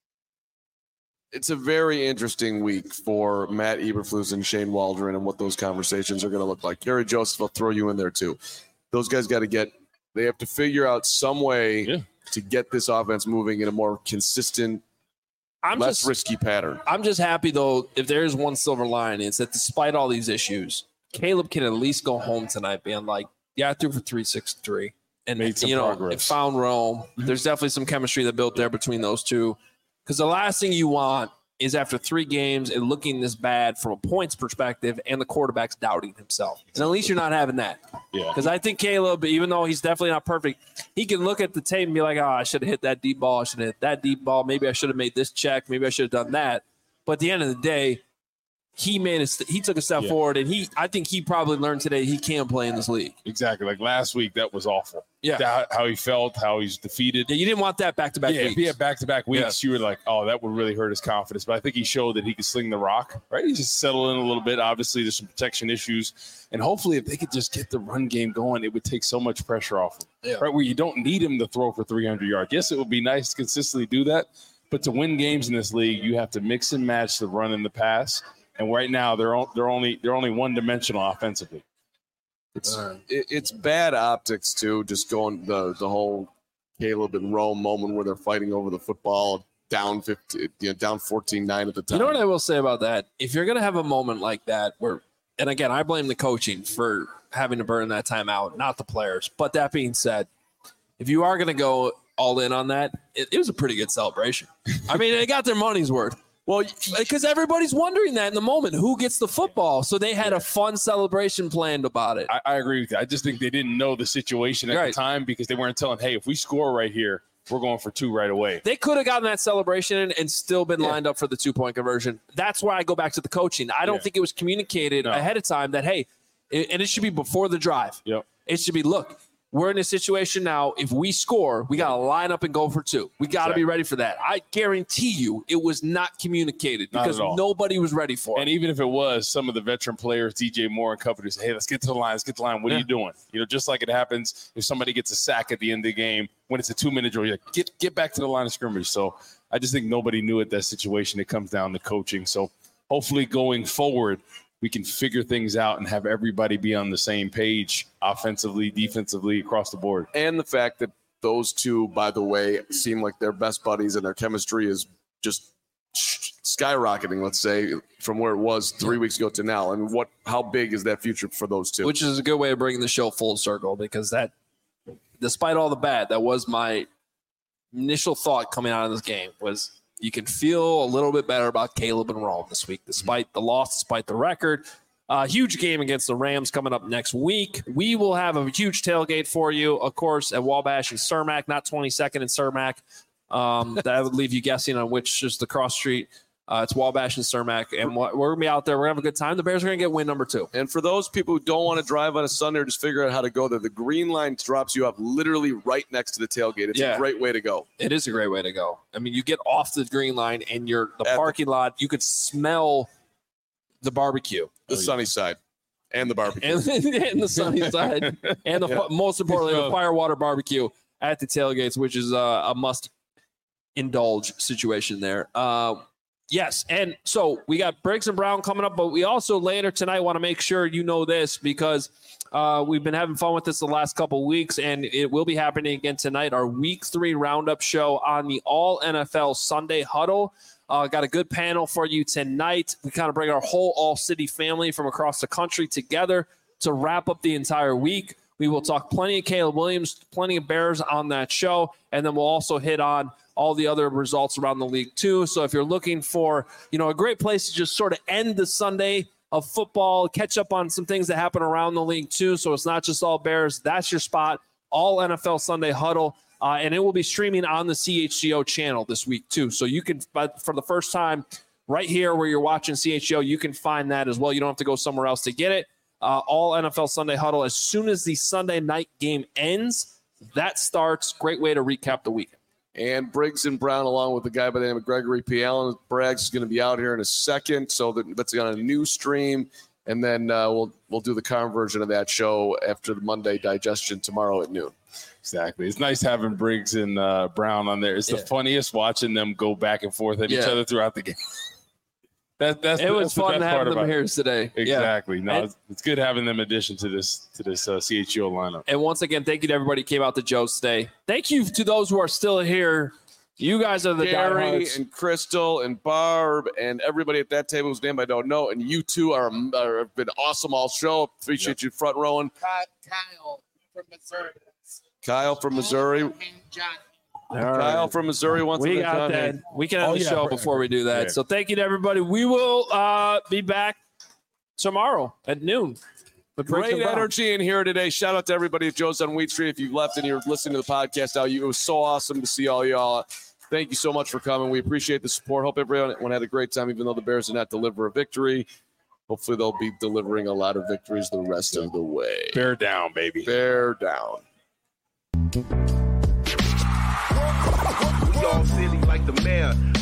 it's a very interesting week for Matt Eberflus and Shane Waldron and what those conversations are going to look like. Gary Joseph will throw you in there too. Those guys they have to figure out some way to get this offense moving in a more consistent, less risky pattern. I'm just happy, though, if there is one silver lining, it's that despite all these issues, Caleb can at least go home tonight being like, I threw for 363. And, made some progress. It found Rome. There's definitely some chemistry that built there between those two. Because the last thing you want is after 3 games and looking this bad from a points perspective and the quarterback's doubting himself. And at least you're not having that. Yeah. Because I think Caleb, even though he's definitely not perfect, he can look at the tape and be like, I should have hit that deep ball. I should have hit that deep ball. Maybe I should have made this check. Maybe I should have done that. But at the end of the day, he took a step forward, and I think he probably learned today he can play in this league. Exactly. Like last week, that was awful. Yeah. How he felt, how he's defeated. Yeah, you didn't want that back-to-back weeks. If he had back-to-back weeks, you were like, oh, that would really hurt his confidence. But I think he showed that he could sling the rock, right? He just settled in a little bit. Obviously, there's some protection issues. And hopefully, if they could just get the run game going, it would take so much pressure off him, right? Where you don't need him to throw for 300 yards. Yes, it would be nice to consistently do that. But to win games in this league, you have to mix and match the run and the pass. And right now, they're only one-dimensional offensively. It's bad optics too. Just going the whole Caleb and Rome moment where they're fighting over the football, down 14-9 at the time. You know what I will say about that? If you're going to have a moment like that, and again, I blame the coaching for having to burn that time out, not the players. But that being said, if you are going to go all in on that. It was a pretty good celebration. I mean, they got their money's worth. Well, because everybody's wondering that in the moment, who gets the football? So they had a fun celebration planned about it. I agree with you. I just think they didn't know the situation at the time because they weren't telling, hey, if we score right here, we're going for 2 right away. They could have gotten that celebration and still been lined up for the 2-point conversion. That's why I go back to the coaching. I don't think it was communicated ahead of time that, hey, and it should be before the drive. Yep. It should be, look, we're in a situation now. If we score, we got to line up and go for 2. We got to be ready for that. I guarantee you it was not communicated because nobody was ready for it. And even if it was, some of the veteran players, DJ Moore and company, say, hey, let's get to the line. Let's get to the line. What are you doing? You know, just like it happens if somebody gets a sack at the end of the game when it's a 2-minute drill, you're like, get back to the line of scrimmage. So I just think nobody knew at that situation. It comes down to coaching. So hopefully going forward, we can figure things out and have everybody be on the same page offensively, defensively, across the board. And the fact that those two, by the way, seem like they're best buddies and their chemistry is just skyrocketing, let's say, from where it was 3 weeks ago to now. And how big is that future for those two? Which is a good way of bringing the show full circle because that, despite all the bad, that was my initial thought coming out of this game was you can feel a little bit better about Caleb and Rome this week, despite the loss, despite the record. Huge game against the Rams coming up next week. We will have a huge tailgate for you, of course, at Wabash and Cermak, not 22nd and Cermak. That would leave you guessing on which is the cross street. It's Wabash and Cermak, and we're going to be out there. We're going to have a good time. The Bears are going to get win number 2. And for those people who don't want to drive on a Sunday or just figure out how to go there, the Green Line drops you off literally right next to the tailgate. It's a great way to go. It is a great way to go. I mean, you get off the Green Line and the parking lot, you could smell the barbecue. The sunny side. And the barbecue. And the sunny side. And most importantly, the Firewater barbecue at the tailgates, which is a must-indulge situation there. Yes, and so we got Briggs and Brown coming up, but we also later tonight want to make sure you know this because we've been having fun with this the last couple of weeks, and it will be happening again tonight, our Week 3 Roundup show on the All-NFL Sunday Huddle. Got a good panel for you tonight. We kind of bring our whole All-City family from across the country together to wrap up the entire week. We will talk plenty of Caleb Williams, plenty of Bears on that show, and then we'll also hit on all the other results around the league too. So if you're looking for, a great place to just sort of end the Sunday of football, catch up on some things that happen around the league too. So it's not just all Bears. That's your spot. All NFL Sunday Huddle. And it will be streaming on the CHGO channel this week too. So you can, for the first time right here where you're watching CHGO, you can find that as well. You don't have to go somewhere else to get it. All NFL Sunday Huddle. As soon as the Sunday night game ends, that starts. Great way to recap the weekend. And Briggs and Brown, along with the guy by the name of Gregory P. Allen. Braggs is going to be out here in a second, so that's on a new stream. And then we'll do the conversion of that show after the Monday digestion tomorrow at noon. Exactly. It's nice having Briggs and Brown on there. It's the funniest watching them go back and forth at each other throughout the game. It was fun having them here today. Exactly. No, it's good having them in addition to this CHGO lineup. And once again, thank you to everybody who came out to Joe's today. Thank you to those who are still here. You guys are the Gary diehards. And Crystal and Barb and everybody at that table whose name I don't know. And you two have been awesome all show. Appreciate you front rowing. Kyle from Missouri. Kyle from Missouri. Kyle from Missouri wants to got that. We can end the show before we do that. Yeah. So thank you to everybody. We will be back tomorrow at noon. Great energy in here today. Shout out to everybody at Joe's on Wheat Street. If you've left and you're listening to the podcast now, it was so awesome to see all y'all. Thank you so much for coming. We appreciate the support. Hope everyone had a great time, even though the Bears did not deliver a victory. Hopefully they'll be delivering a lot of victories the rest of the way. Bear down, baby. Bear down. We all silly like the mayor.